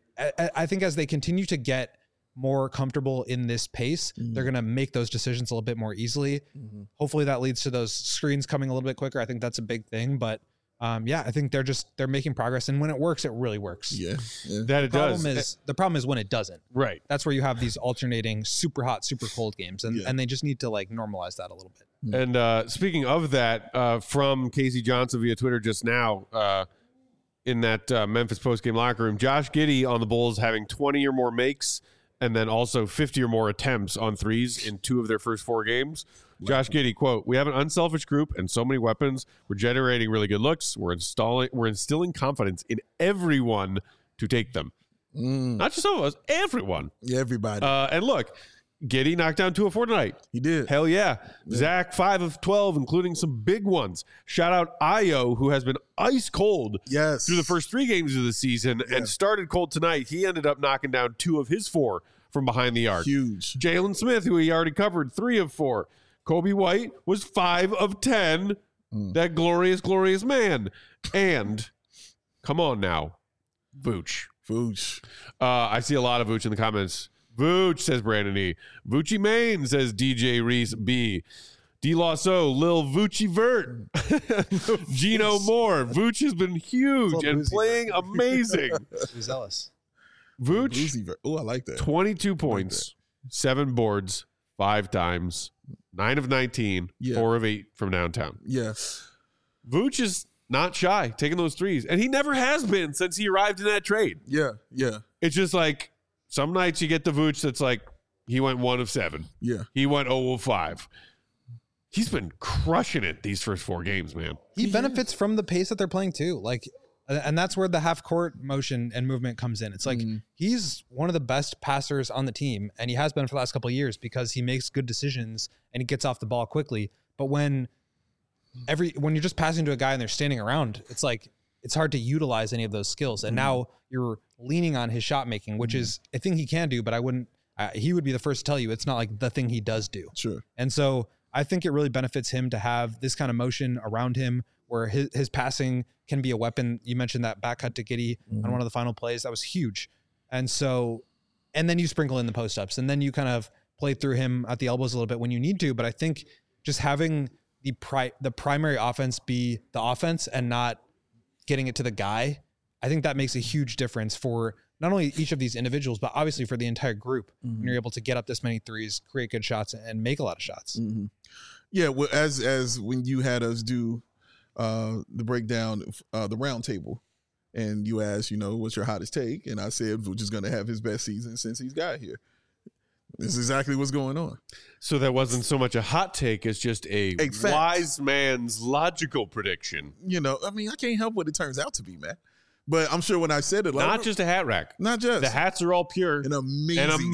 I think as they continue to get more comfortable in this pace, they're going to make those decisions a little bit more easily. Hopefully that leads to those screens coming a little bit quicker. I think that's a big thing, but I think they're making progress, and when it works, it really works. That it does. The problem is when it doesn't. Right. That's where you have these alternating super hot, super cold games, and they just need to like normalize that a little bit. And speaking of that, from Casey Johnson via Twitter just now, in that Memphis postgame locker room, Josh Giddey on the Bulls having 20 or more makes and then also 50 or more attempts on threes in 2 of their first 4 games. Josh Giddey, quote, "We have an unselfish group and so many weapons. We're generating really good looks. We're instilling confidence in everyone to take them." Not just some of us, everyone. Yeah, everybody. And look, Giddey knocked down 2 of 4 tonight. He did. Hell yeah. Zach, 5 of 12, including some big ones. Shout out Ayo, who has been ice cold Yes. through the first 3 games of the season and started cold tonight. He ended up knocking down 2 of his 4 from behind the arc. Huge. Jalen Smith, who he already covered, 3 of 4. Kobe White was 5 of 10. That glorious, glorious man. And come on now, Vooch. Vooch. I see a lot of Vooch in the comments. Vooch, says Brandon E. Voochie Main, says DJ Reese B. D. Losso, Lil Voochie Vert. Gino Moore. Vooch has been huge and playing amazing. Too zealous. Vooch, Oh, I like that. 22 points, 7 boards, 5 times, 9 of 19, Yeah. 4 of 8 from downtown. Yeah. Vooch is not shy taking those threes, and he never has been since he arrived in that trade. Yeah. Yeah. It's just like some nights you get the Vooch that's like he went 1 of 7. Yeah. He went 0 of 5. He's been crushing it these first 4 games, man. He benefits from the pace that they're playing too. Like, and that's where the half court motion and movement comes in. It's like he's one of the best passers on the team, and he has been for the last couple of years because he makes good decisions and he gets off the ball quickly. But when you're just passing to a guy and they're standing around, it's like it's hard to utilize any of those skills. And now you're leaning on his shot making, which is a thing he can do, but I wouldn't. He would be the first to tell you it's not like the thing he does do. Sure. And so I think it really benefits him to have this kind of motion around him where his passing can be a weapon. You mentioned that back cut to Giddey on one of the final plays. That was huge. And so, and then you sprinkle in the post ups and then you kind of play through him at the elbows a little bit when you need to. But I think just having the primary offense be the offense and not getting it to the guy, I think that makes a huge difference for not only each of these individuals, but obviously for the entire group. When you're able to get up this many threes, create good shots, and make a lot of shots. Yeah. Well, as when you had us do the breakdown, the round table, and you asked, what's your hottest take? And I said, Vooch is going to have his best season since he's got here. This is exactly what's going on. So that wasn't so much a hot take as just a fact. wise man's logical prediction. I can't help what it turns out to be, man. But I'm sure when I said it, Not just a hat rack. not just The hats are all pure. an amazing,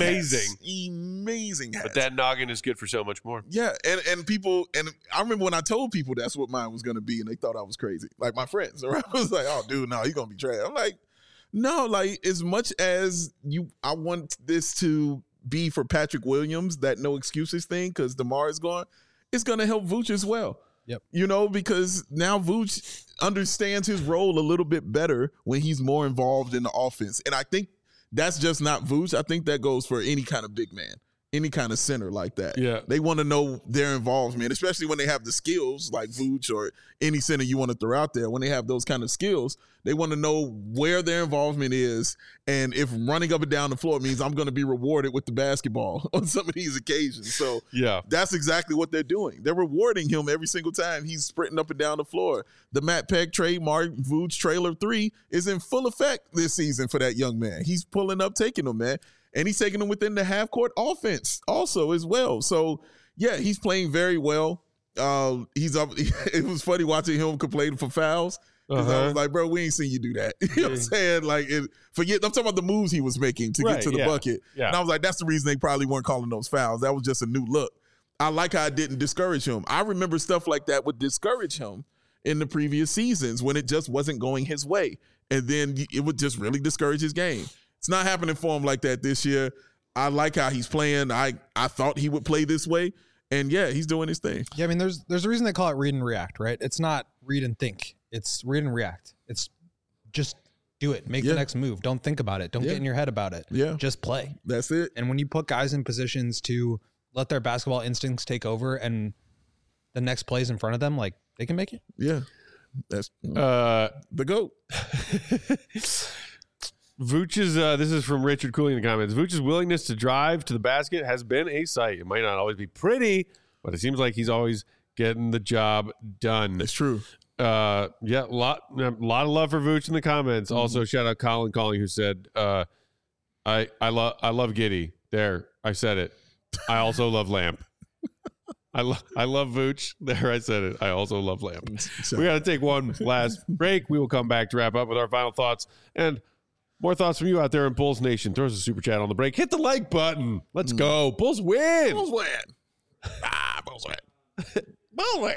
amazing hat. But that noggin is good for so much more. Yeah, and people, and I remember when I told people that's what mine was going to be, and they thought I was crazy. Like my friends, I was like, "Oh, dude, no, you're going to be trash." I'm like, "No, like as much as I want this to be for Patrick Williams, that no excuses thing, because DeMar is gone, it's going to help Vooch as well." Yep. Because now Vooch understands his role a little bit better when he's more involved in the offense. And I think that's just not Vooch. I think that goes for any kind of big man, any kind of center like that. Yeah. They want to know their involvement, especially when they have the skills like Vooch or any center you want to throw out there. When they have those kind of skills, they want to know where their involvement is. And if running up and down the floor means I'm going to be rewarded with the basketball on some of these occasions. So Yeah. that's exactly what they're doing. They're rewarding him every single time he's sprinting up and down the floor. The Matt Peck trademark Vooch trailer 3 is in full effect this season for that young man. He's pulling up, taking them, man. And he's taking them within the half-court offense also as well. So, yeah, he's playing very well. He's up. It was funny watching him complain for fouls. Because I was like, bro, we ain't seen you do that. You know what I'm saying? Like, I'm talking about the moves he was making to get to the bucket. Yeah. And I was like, that's the reason they probably weren't calling those fouls. That was just a new look. I like how it didn't discourage him. I remember stuff like that would discourage him in the previous seasons when it just wasn't going his way. And then it would just really discourage his game. It's not happening for him like that this year. I like how he's playing. I thought he would play this way. And yeah, he's doing his thing. Yeah, I mean, there's a reason they call it read and react, right? It's not read and think. It's read and react. It's just do it. Make the next move. Don't think about it. Don't get in your head about it. Yeah. Just play. That's it. And when you put guys in positions to let their basketball instincts take over and the next plays in front of them, like they can make it. Yeah. That's the GOAT. Vooch's, this is from Richard Cooley in the comments. Vooch's willingness to drive to the basket has been a sight. It might not always be pretty, but it seems like he's always getting the job done. It's true. Yeah, a lot of love for Vooch in the comments. Also, shout out Colin Calling, who said I love Giddy. There, I said it. I also love Lamp. I love Vooch. There, I said it. I also love Lamp. We got to take one last break. We will come back to wrap up with our final thoughts and more thoughts from you out there in Bulls Nation. Throw us a super chat on the break. Hit the like button. Let's go. Bulls win. Bulls win. Bulls win. Bulls win.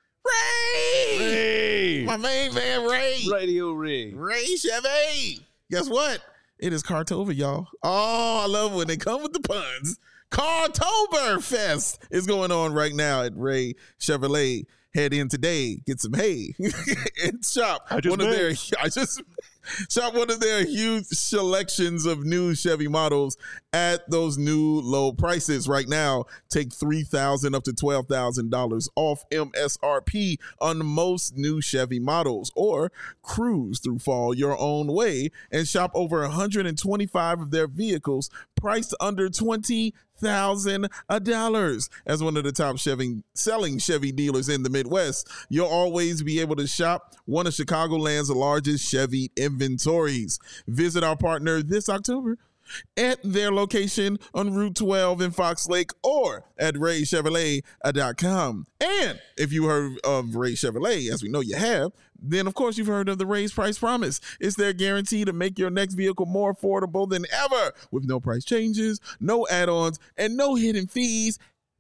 Ray. My main man, Ray. Radio Ray. Ray Chevy. Guess what? It is Cartober, y'all. Oh, I love when they come with the puns. Cartober Fest is going on right now at Ray Chevrolet. Head in today, get some hay, and shop one of their huge selections of new Chevy models at those new low prices. Right now, take $3,000 up to $12,000 off MSRP on most new Chevy models, or cruise through fall your own way and shop over 125 of their vehicles priced under $20,000 as one of the top selling Chevy dealers in the Midwest. You'll always be able to shop one of Chicagoland's largest Chevy inventories. Visit our partner this October at their location on Route 12 in Fox Lake or at RayChevrolet.com. And if you heard of Ray Chevrolet, as we know you have, then of course you've heard of the Ray's Price Promise. It's their guarantee to make your next vehicle more affordable than ever, with no price changes, no add-ons, and no hidden fees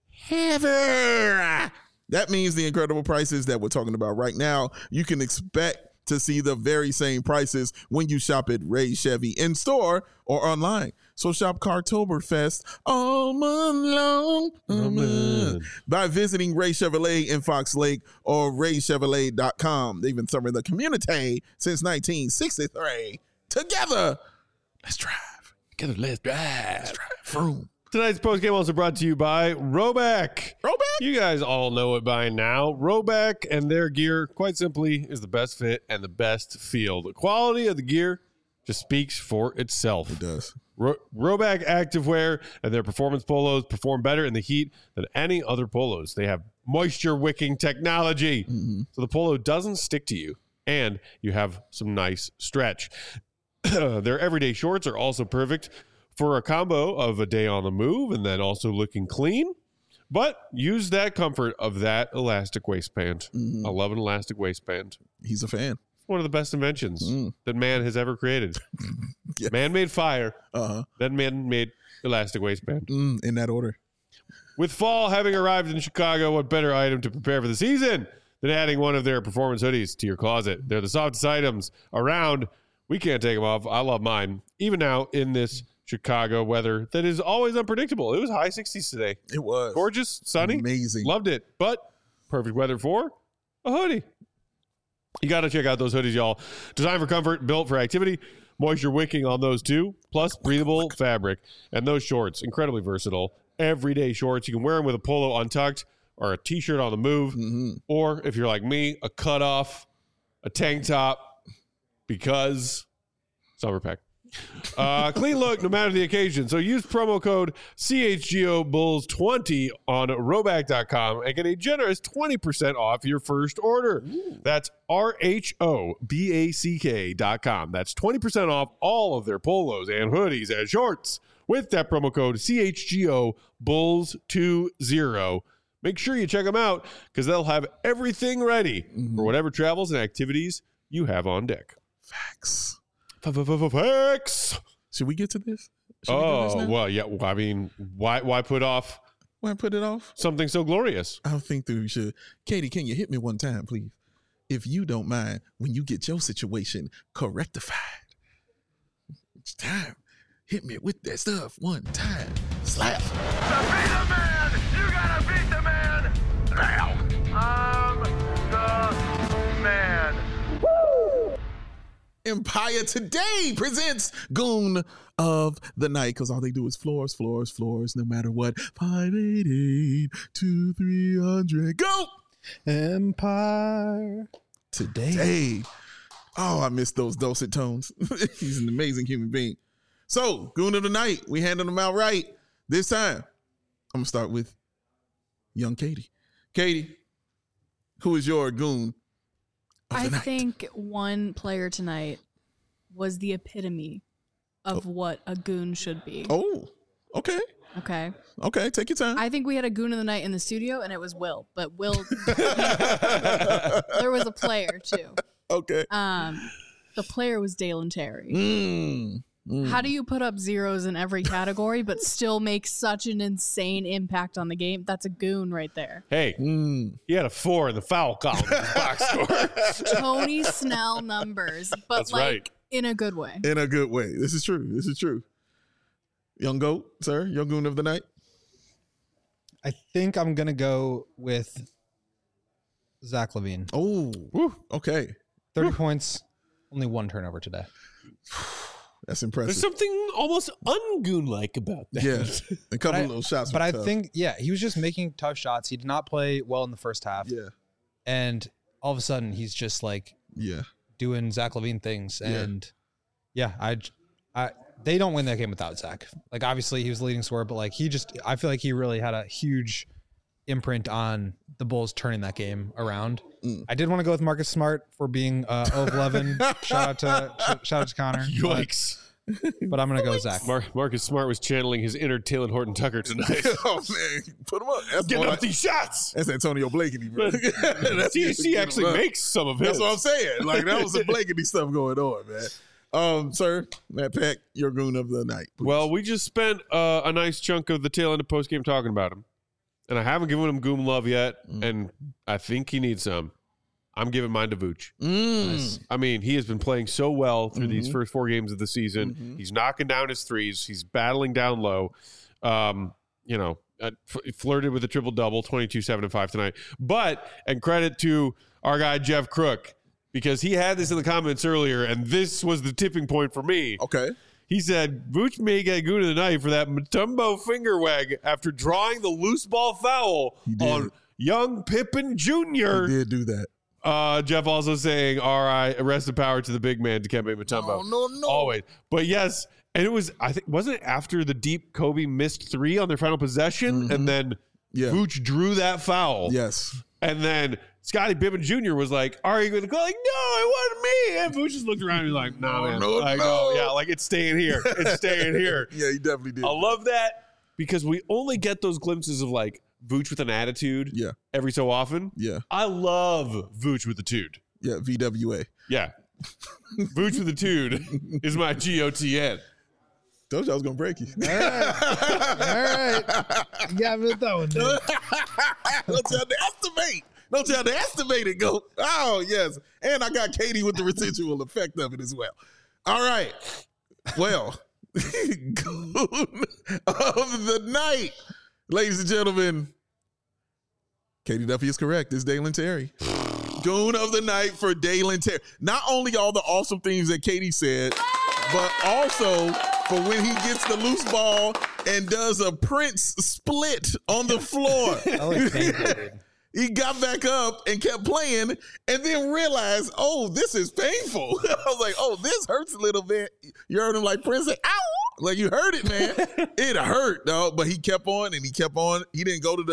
ever. That means the incredible prices that we're talking about right now, you can expect to see the very same prices when you shop at Ray Chevy in store or online. So shop Cartoberfest all month long by visiting Ray Chevrolet in Fox Lake or RayChevrolet.com. They've been serving the community since 1963. Together, let's drive. Together, let's drive. Let's drive. Vroom. Tonight's postgame also brought to you by Roback. Roback? You guys all know it by now. Roback and their gear, quite simply, is the best fit and the best feel. The quality of the gear just speaks for itself. It does. Roback activewear and their performance polos perform better in the heat than any other polos. They have moisture wicking technology, so the polo doesn't stick to you, and you have some nice stretch. Their everyday shorts are also perfect for a combo of a day on the move and then also looking clean. But use that comfort of that elastic waistband. I love an elastic waistband. He's a fan. One of the best inventions that man has ever created. Yes. Man made fire. Then man made elastic waistband. In that order. With fall having arrived in Chicago, what better item to prepare for the season than adding one of their performance hoodies to your closet? They're the softest items around. We can't take them off. I love mine. Even now in this Chicago weather that is always unpredictable. It was high 60s today. It was. Gorgeous, sunny. Amazing. Loved it. But perfect weather for a hoodie. You got to check out those hoodies, y'all. Designed for comfort, built for activity, moisture wicking on those too, plus breathable fabric. And those shorts, incredibly versatile. Everyday shorts. You can wear them with a polo untucked or a t-shirt on the move. Or if you're like me, a cutoff, a tank top, because summer pack. Clean look no matter the occasion. So use promo code CHGOBulls20 on Roback.com and get a generous 20% off your first order. That's RHOBACK.com. That's 20% off all of their polos and hoodies and shorts with that promo code CHGOBulls20. Make sure you check them out because they'll have everything ready for whatever travels and activities you have on deck. Facts. Facts. Should we get to this? Well, yeah. I mean, why put off? Why put it off? Something so glorious. I don't think that we should. Katie, can you hit me one time, please? If you don't mind, when you get your situation correctified. It's time. Hit me with that stuff one time. Slap. To be the man, you gotta beat the man now. I'm the man. Empire Today presents Goon of the Night, because all they do is floors, no matter what. 588-2300. Go! Empire Today. Hey. Oh, I miss those dulcet tones. He's an amazing human being. So, Goon of the Night. We handled them out right. This time, I'm going to start with young Katie. Katie, who is your Goon of the I Night? think one player tonight was the epitome of what a goon should be. Oh, okay. Okay. Okay, take your time. I think we had a goon of the night in the studio, and it was Will. But Will, there was a player too. Okay. The player was Dalen Terry. Mm. How do you put up zeros in every category but still make such an insane impact on the game? That's a goon right there. Hey, he had a 4 in the foul column in his box score. Tony Snell numbers, but That's like right. in a good way. In a good way. This is true. This is true. Young Goat, sir, your goon of the night. I think I'm gonna go with Zach LaVine. Oh, okay. 30 points, only 1 turnover today. That's impressive. There's something almost ungoon-like about that. Yeah, a couple of little shots. But were I tough. think, he was just making tough shots. He did not play well in the first half. Yeah, And all of a sudden, he's just like yeah. doing Zach LaVine things. Yeah. And they don't win that game without Zach. Like, obviously, he was the leading scorer, but like I feel like he really had a huge imprint on the Bulls turning that game around. I did want to go with Marcus Smart for being 0 of 11. Shout out to Connor. Yikes. But I'm gonna go with Zach. Marcus Smart was channeling his inner Taylor Horton Tucker tonight. Oh man, put him up. That's Getting more up these shots. That's Antonio Blakeney, bro. That's THC actually makes some of his. That's what I'm saying. Like that was some Blakeney stuff going on, man. Sir, Matt Peck, your goon of the night. Please. Well, we just spent a nice chunk of the tail end of postgame talking about him. And I haven't given him goon love yet, and I think he needs some. I'm giving mine to Vooch. Nice. I mean, he has been playing so well through these first 4 games of the season. He's knocking down his threes. He's battling down low. Flirted with a triple-double, 22, 7, and 5 tonight. And credit to our guy, Jeff Crook, because he had this in the comments earlier, and this was the tipping point for me. okay. He said, Vooch may get goon of the night for that Mutombo finger wag after drawing the loose ball foul on young Pippen Jr. He did do that. Jeff also saying, all right, rest of power to the big man, Dikembe Mutombo. No. Always. But yes, and it was, I think, wasn't it after the deep Kobe missed 3 on their final possession? And then Vooch drew that foul. Yes. And then Scottie Pippen Jr. was like, are you going to go? Like, no, it wasn't me. And Vooch just looked around and was like, nah, man. no. Oh, yeah, like it's staying here. It's staying here. Yeah, he definitely did. I love that because we only get those glimpses of like Vooch with an attitude every so often. Yeah. I love Vooch with a tude. Yeah, VWA. Yeah. Vooch with a tude is my GOTN. Told you I was going to break you. All right. You got me with that one, dude. Don't tell to estimate. Don't tell to estimate it, go. Oh, yes. And I got Katie with the residual effect of it as well. All right. Well, goon of the night. Ladies and gentlemen, Katie Duffy is correct. It's Dalen Terry. Goon of the night for Dalen Terry. Not only all the awesome things that Katie said, but also for when he gets the loose ball and does a Prince split on the floor. I like painful, dude. He got back up and kept playing and then realized, oh, this is painful. I was like, oh, this hurts a little bit. You heard him like Prince say, ow. Like you heard it, man. It hurt, though. But he kept on and he kept on. He didn't go to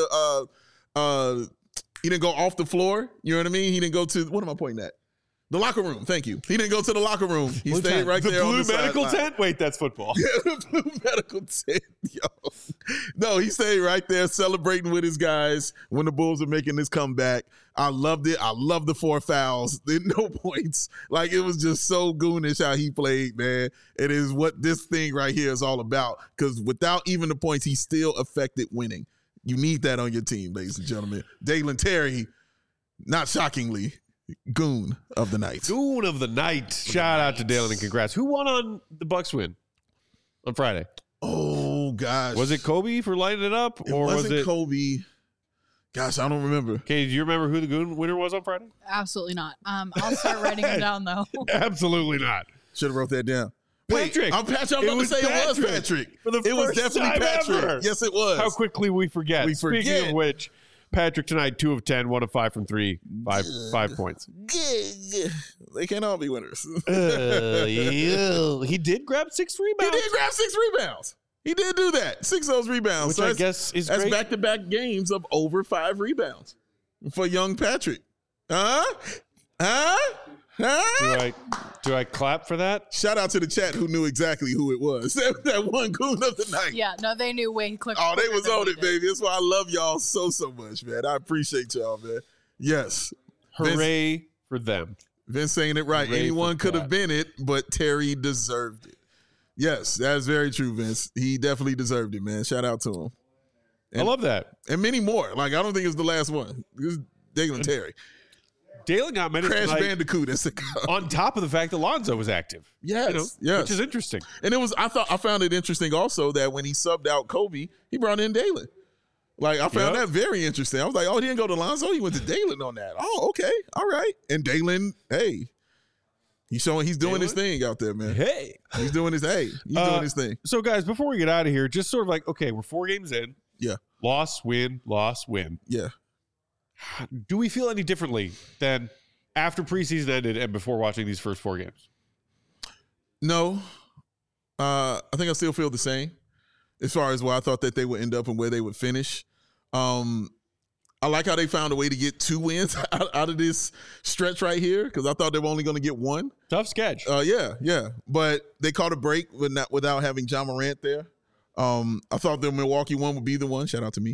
the he didn't go off the floor. You know what I mean? He didn't go to, what am I pointing at? The locker room. Thank you. He didn't go to the locker room. He Blue stayed tent. right The there on blue the medical sideline. tent? Wait, that's football. Yeah, the blue medical tent. Yo. No, he stayed right there celebrating with his guys when the Bulls were making this comeback. I loved it. I loved the 4 fouls. No points. Like, it was just so goonish how he played, man. It is what this thing right here is all about. Because without even the points, he still affected winning. You need that on your team, ladies and gentlemen. Dalen Terry, not shockingly, goon of the night. Goon of the night. Shout out to Dalen and congrats. Who won on the Bucks win on Friday? Oh, gosh. Was it Kobe for lighting it up? It or was wasn't it Kobe. Gosh, I don't remember. Okay, do you remember who the goon winner was on Friday? Absolutely not. I'll start writing them down though. Absolutely not. Should have wrote that down. Patrick. I'm Patrick. I'm It about to was say it was Patrick. Patrick. For the It was first definitely time Patrick. ever. Yes, it was. How quickly we forget. We forget. Speaking of which, Patrick tonight, 2 of 10, 1 of 5 from 3, 5 points. They can't all be winners. He did grab 6 He rebounds. did grab 6 rebounds. He did do that. 6 of those rebounds. Which I guess is that's great. back-to-back games of over 5 rebounds for young Patrick. Huh? Do I clap for that? Shout out to the chat who knew exactly who it was. That one goon of the night. Yeah, no, they knew way quicker. Oh, they was than on we it, did. baby. That's why I love y'all so much, man. I appreciate y'all, man. Yes. Hooray for them. Vince saying it right. Hooray Anyone for could have Pat. been it, but Terry deserved it. Yes, that's very true, Vince. He definitely deserved it, man. Shout out to him. I love that. And many more. Like, I don't think it's the last one. This is Dalen Terry. Dalen got minutes Crash tonight Bandicoot. That's on top of the fact that Lonzo was active. yes. Which is interesting. And I found it interesting also that when he subbed out Kobe, he brought in Dalen. Like, I found that very interesting. I was like, oh, he didn't go to Lonzo. He went to Dalen on that. Oh, okay. All right. And Dalen, hey, he's doing his thing out there, man. Hey. He's doing his thing. So, guys, before we get out of here, just sort of like, okay, we're 4 games in. Yeah. Loss, win, loss, win. Yeah. Do we feel any differently than after preseason ended and before watching these first 4 games? No. I think I still feel the same as far as where I thought that they would end up and where they would finish. I like how they found a way to get 2 wins out of this stretch right here because I thought they were only going to get 1. Tough sketch. Yeah. But they caught a break without having John Morant there. I thought the Milwaukee one would be the one. Shout out to me.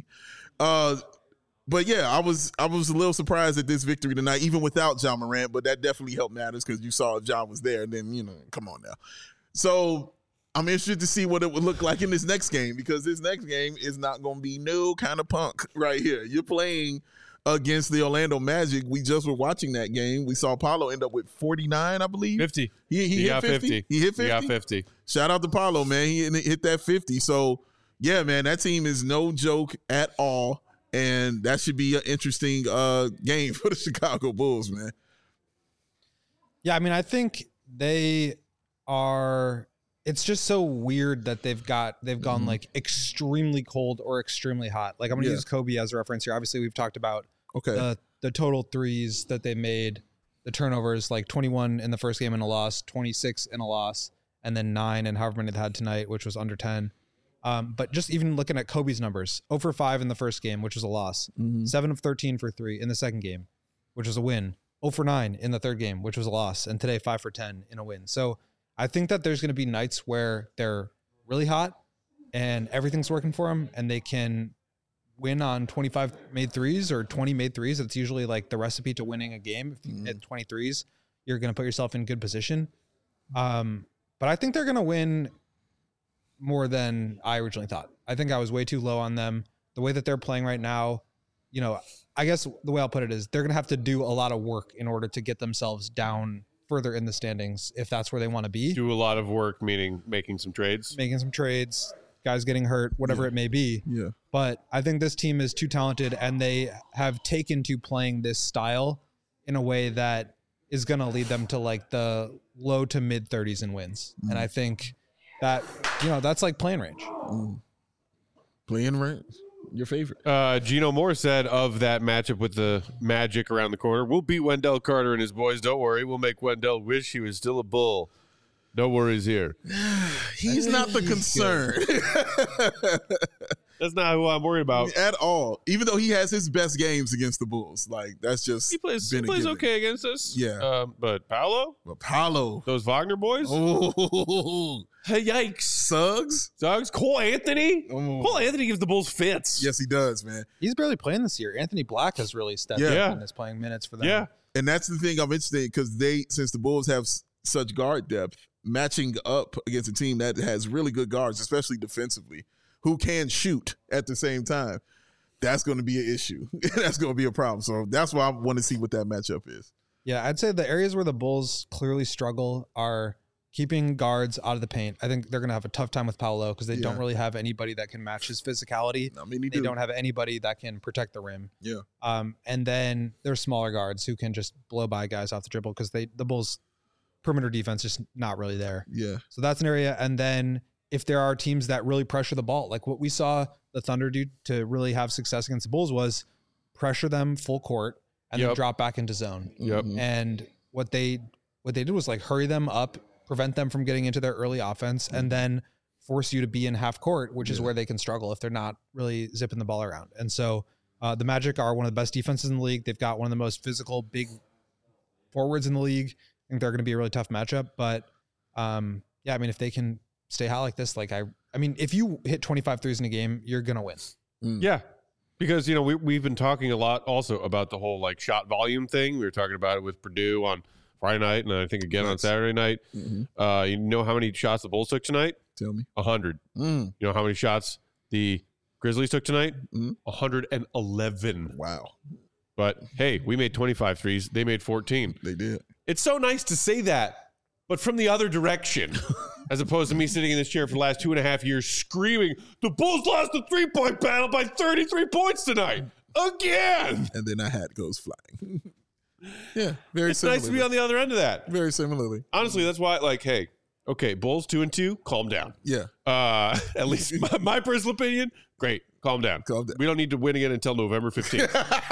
But yeah, I was a little surprised at this victory tonight, even without John Morant. But that definitely helped matters because you saw John was there. And then come on now. So I'm interested to see what it would look like in this next game because this next game is not going to be no kind of punk right here. You're playing against the Orlando Magic. We just were watching that game. We saw Paolo end up with 49, I believe. 50. He hit got 50. He hit 50. He got 50. Shout out to Paolo, man. He hit that 50. So, yeah, man, that team is no joke at all. And that should be an interesting game for the Chicago Bulls, man. Yeah, I mean, I think they are. It's just so weird that they've gone like extremely cold or extremely hot. Like I'm gonna use Kobe as a reference here. Obviously, we've talked about the total threes that they made, the turnovers, like 21 in the first game in a loss, 26 in a loss, and then 9 and however many they had tonight, which was under 10. But just even looking at Kobe's numbers, 0 for 5 in the first game, which was a loss, 7 of 13 for 3 in the second game, which was a win, 0 for 9 in the third game, which was a loss, and today 5 for 10 in a win. So I think that there's going to be nights where they're really hot and everything's working for them and they can win on 25 made threes or 20 made threes. It's usually like the recipe to winning a game. If you hit 20 threes, you're going to put yourself in good position. But I think they're going to win more than I originally thought. I think I was way too low on them. The way that they're playing right now, I guess the way I'll put it is they're going to have to do a lot of work in order to get themselves down further in the standings if that's where they want to be. Do a lot of work, meaning making some trades. Guys getting hurt, whatever it may be. Yeah. But I think this team is too talented and they have taken to playing this style in a way that is going to lead them to like the low to mid 30s in wins. And I think that, that's like playing range. Playing range. Your favorite. Gino Moore said of that matchup with the Magic around the corner, we'll beat Wendell Carter and his boys. Don't worry. We'll make Wendell wish he was still a Bull. No worries here. He's not the concern. That's not who I'm worried about. At all. Even though he has his best games against the Bulls. Like, that's just He plays been a given. okay against us. Yeah. But Paolo? But Paolo. Those Wagner boys? Oh. Hey, yikes. Suggs. Cole Anthony? Oh. Cole Anthony gives the Bulls fits. Yes, he does, man. He's barely playing this year. Anthony Black has really stepped up and is playing minutes for them. Yeah. And that's the thing I'm interested in because since the Bulls have such guard depth, matching up against a team that has really good guards, especially defensively, who can shoot at the same time, that's going to be an issue. That's going to be a problem. So that's why I want to see what that matchup is. Yeah, I'd say the areas where the Bulls clearly struggle are keeping guards out of the paint. I think they're going to have a tough time with Paolo because they don't really have anybody that can match his physicality. I mean, they don't have anybody that can protect the rim. Yeah. And then there's smaller guards who can just blow by guys off the dribble because the Bulls' perimeter defense is just not really there. Yeah. So that's an area. And then if there are teams that really pressure the ball, like what we saw the Thunder do to really have success against the Bulls was pressure them full court and then drop back into zone. Yep. And what they did was like hurry them up, prevent them from getting into their early offense, and then force you to be in half court, which is where they can struggle if they're not really zipping the ball around. And so the Magic are one of the best defenses in the league. They've got one of the most physical big forwards in the league. think they're going to be a really tough matchup. But yeah, I mean, if they can stay hot like this, like I mean, if you hit 25 threes in a game, you're going to win. Yeah. Because, you know, we've been talking a lot also about the whole like shot volume thing. We were talking about it with Purdue on Friday night, and I think again on Saturday night. You know how many shots the Bulls took tonight? Tell me. 100. You know how many shots the Grizzlies took tonight? 111. Wow. But hey, we made 25 threes. They made 14. They did. It's so nice to say that, but from the other direction, as opposed to me sitting in this chair for the last 2.5 years screaming, the Bulls lost the 3-point battle by 33 points tonight. Again. And then a hat goes flying. Yeah, very It's similarly. nice to be on the other end of that. Very similarly. Honestly, that's why, like, hey, okay, Bulls 2-2, calm down. Yeah. At least my personal opinion, great, calm down. Calm down. We don't need to win again until November 15th.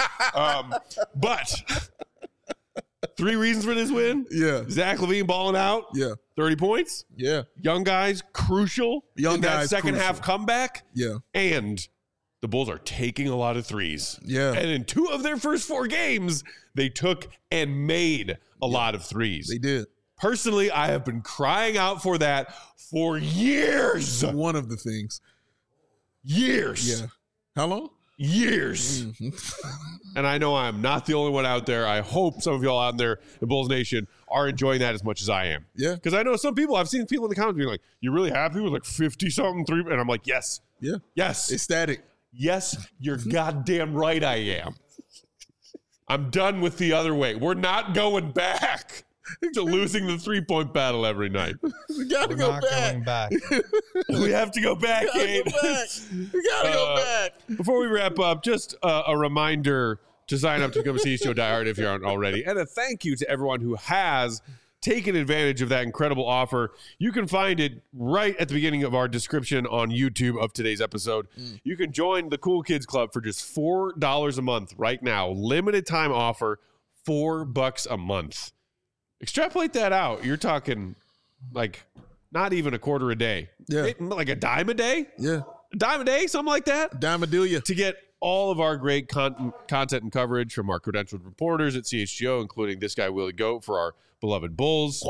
But 3 reasons for this win. Yeah. Zach LaVine balling out. Yeah. 30 points. Yeah. Young guys, crucial. Young in that guys, second crucial. half comeback. Yeah. And the Bulls are taking a lot of threes. Yeah. And in 2 of their first 4 games, they took and made a lot of threes. They did. Personally, I have been crying out for that for years. One of the things. Years. Yeah. How long? Years. And I know I'm not the only one out there. I hope some of y'all out there in Bulls Nation are enjoying that as much as I am. Yeah. Because I know some people, I've seen people in the comments being like, you're really happy with like 50-something 3? And I'm like, yes. Yeah. Yes. Ecstatic. Yes, you're goddamn right I am. I'm done with the other way. We're not going back to losing the 3-point battle every night. We gotta We're go not back. going back. We have to go back, Kate. We gotta go back. Before we wrap up, just a reminder to sign up to become a CHGO diehard if you aren't already. And a thank you to everyone who has taken advantage of that incredible offer. You can find it right at the beginning of our description on YouTube of today's episode. You can join the Cool Kids Club for just $4 a month right now. Limited time offer, $4 a month. Extrapolate that out. You're talking like not even a quarter a day. Yeah. Like a dime a day? Yeah. A dime a day? Something like that? Dimadelia. To get all of our great content and coverage from our credentialed reporters at CHGO, including this guy, Willie Goat, for our beloved Bulls.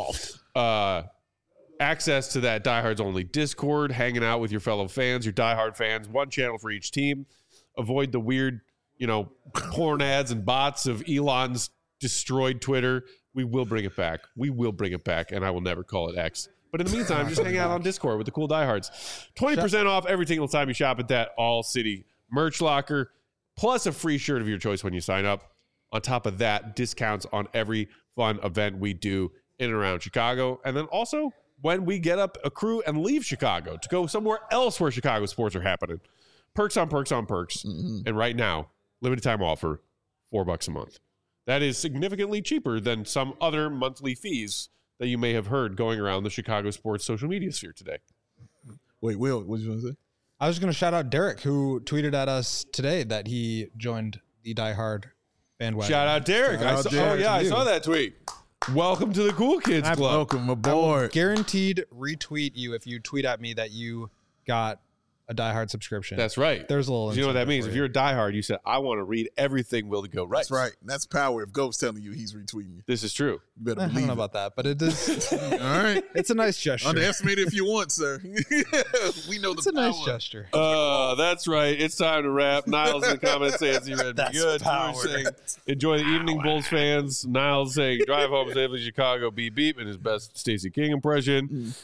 Access to that Diehards Only Discord, hanging out with your fellow fans, your diehard fans, one channel for each team. Avoid the weird, porn ads and bots of Elon's destroyed Twitter. We will bring it back. We will bring it back, and I will never call it X. But in the meantime, just hang out on Discord with the cool diehards. 20% off every single time you shop at that All City merch locker, plus a free shirt of your choice when you sign up. On top of that, discounts on every fun event we do in and around Chicago. And then also when we get up a crew and leave Chicago to go somewhere else where Chicago sports are happening. Perks on perks on perks. And right now, limited time offer, $4 a month. That is significantly cheaper than some other monthly fees that you may have heard going around the Chicago sports social media sphere today. Wait, Will, what did you want to say? I was going to shout out Derek, who tweeted at us today that he joined the diehard bandwagon. Shout out Derek. Shout out Derek I to saw you. that tweet. Welcome to the Cool Kids Club. Welcome I will aboard. guaranteed retweet you if you tweet at me that you got a diehard subscription. That's right. There's a little. You know what that incentive means? for If you. you're a diehard, you said, I want to read everything Willie Go writes. That's right. That's power. If Goat's telling you he's retweeting you, This is true. you better I don't believe know it. about that, but it is. All right. It's a nice gesture. Underestimate it if you want, sir. We know It's the a nice power. gesture. That's right. It's time to wrap. Niles in the comments saying you read me That's good. power. Drew saying, enjoy the evening, Bulls fans. Niles saying, drive home safely, Chicago, beep beep, in his best Stacey King impression.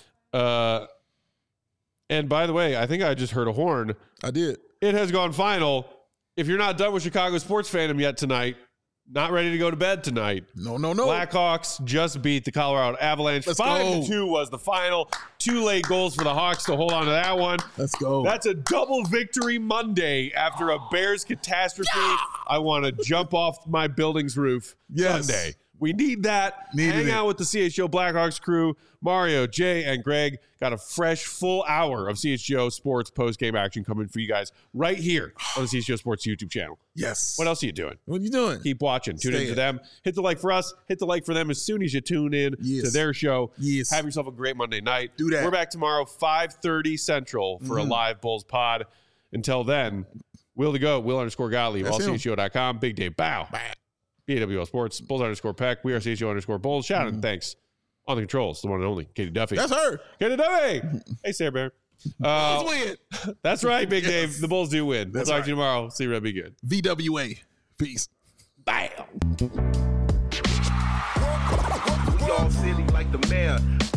And by the way, I think I just heard a horn. I did. It has gone final. If you're not done with Chicago sports fandom yet tonight, not ready to go to bed tonight. No. Blackhawks just beat the Colorado Avalanche. Let's 5-2 go. was the final. 2 late goals for the Hawks to hold on to that one. Let's go. That's a double victory Monday after a Bears catastrophe. I want to jump off my building's roof Yes. Sunday. We need that. Needed Hang it. out with the CHGO Blackhawks crew. Mario, Jay, and Greg got a fresh full hour of CHGO Sports post-game action coming for you guys right here on the CHGO Sports YouTube channel. Yes. What else are you doing? What are you doing? Keep watching. Tune Stay into in. them. Hit the like for us. Hit the like for them as soon as you tune in Yes. to their show. Yes. Have yourself a great Monday night. Do that. We're back tomorrow, 5:30 Central for a live Bulls pod. Until then, Will to go. Will_Gottlieb. That's him. AllCHGO.com. Big day. Bow. BAWL Sports, Bulls _Peck. We are CHO _Bulls. Shout out and thanks on the controls, the one and only Katie Duffy. That's her. Katie Duffy. Hey, Sarah Bear. Bulls win. That's right, Big Dave. The Bulls do win. We'll That's talk right. to you tomorrow. See you, Red. Be good. VWA. Peace. Bam. We all silly like the mayor.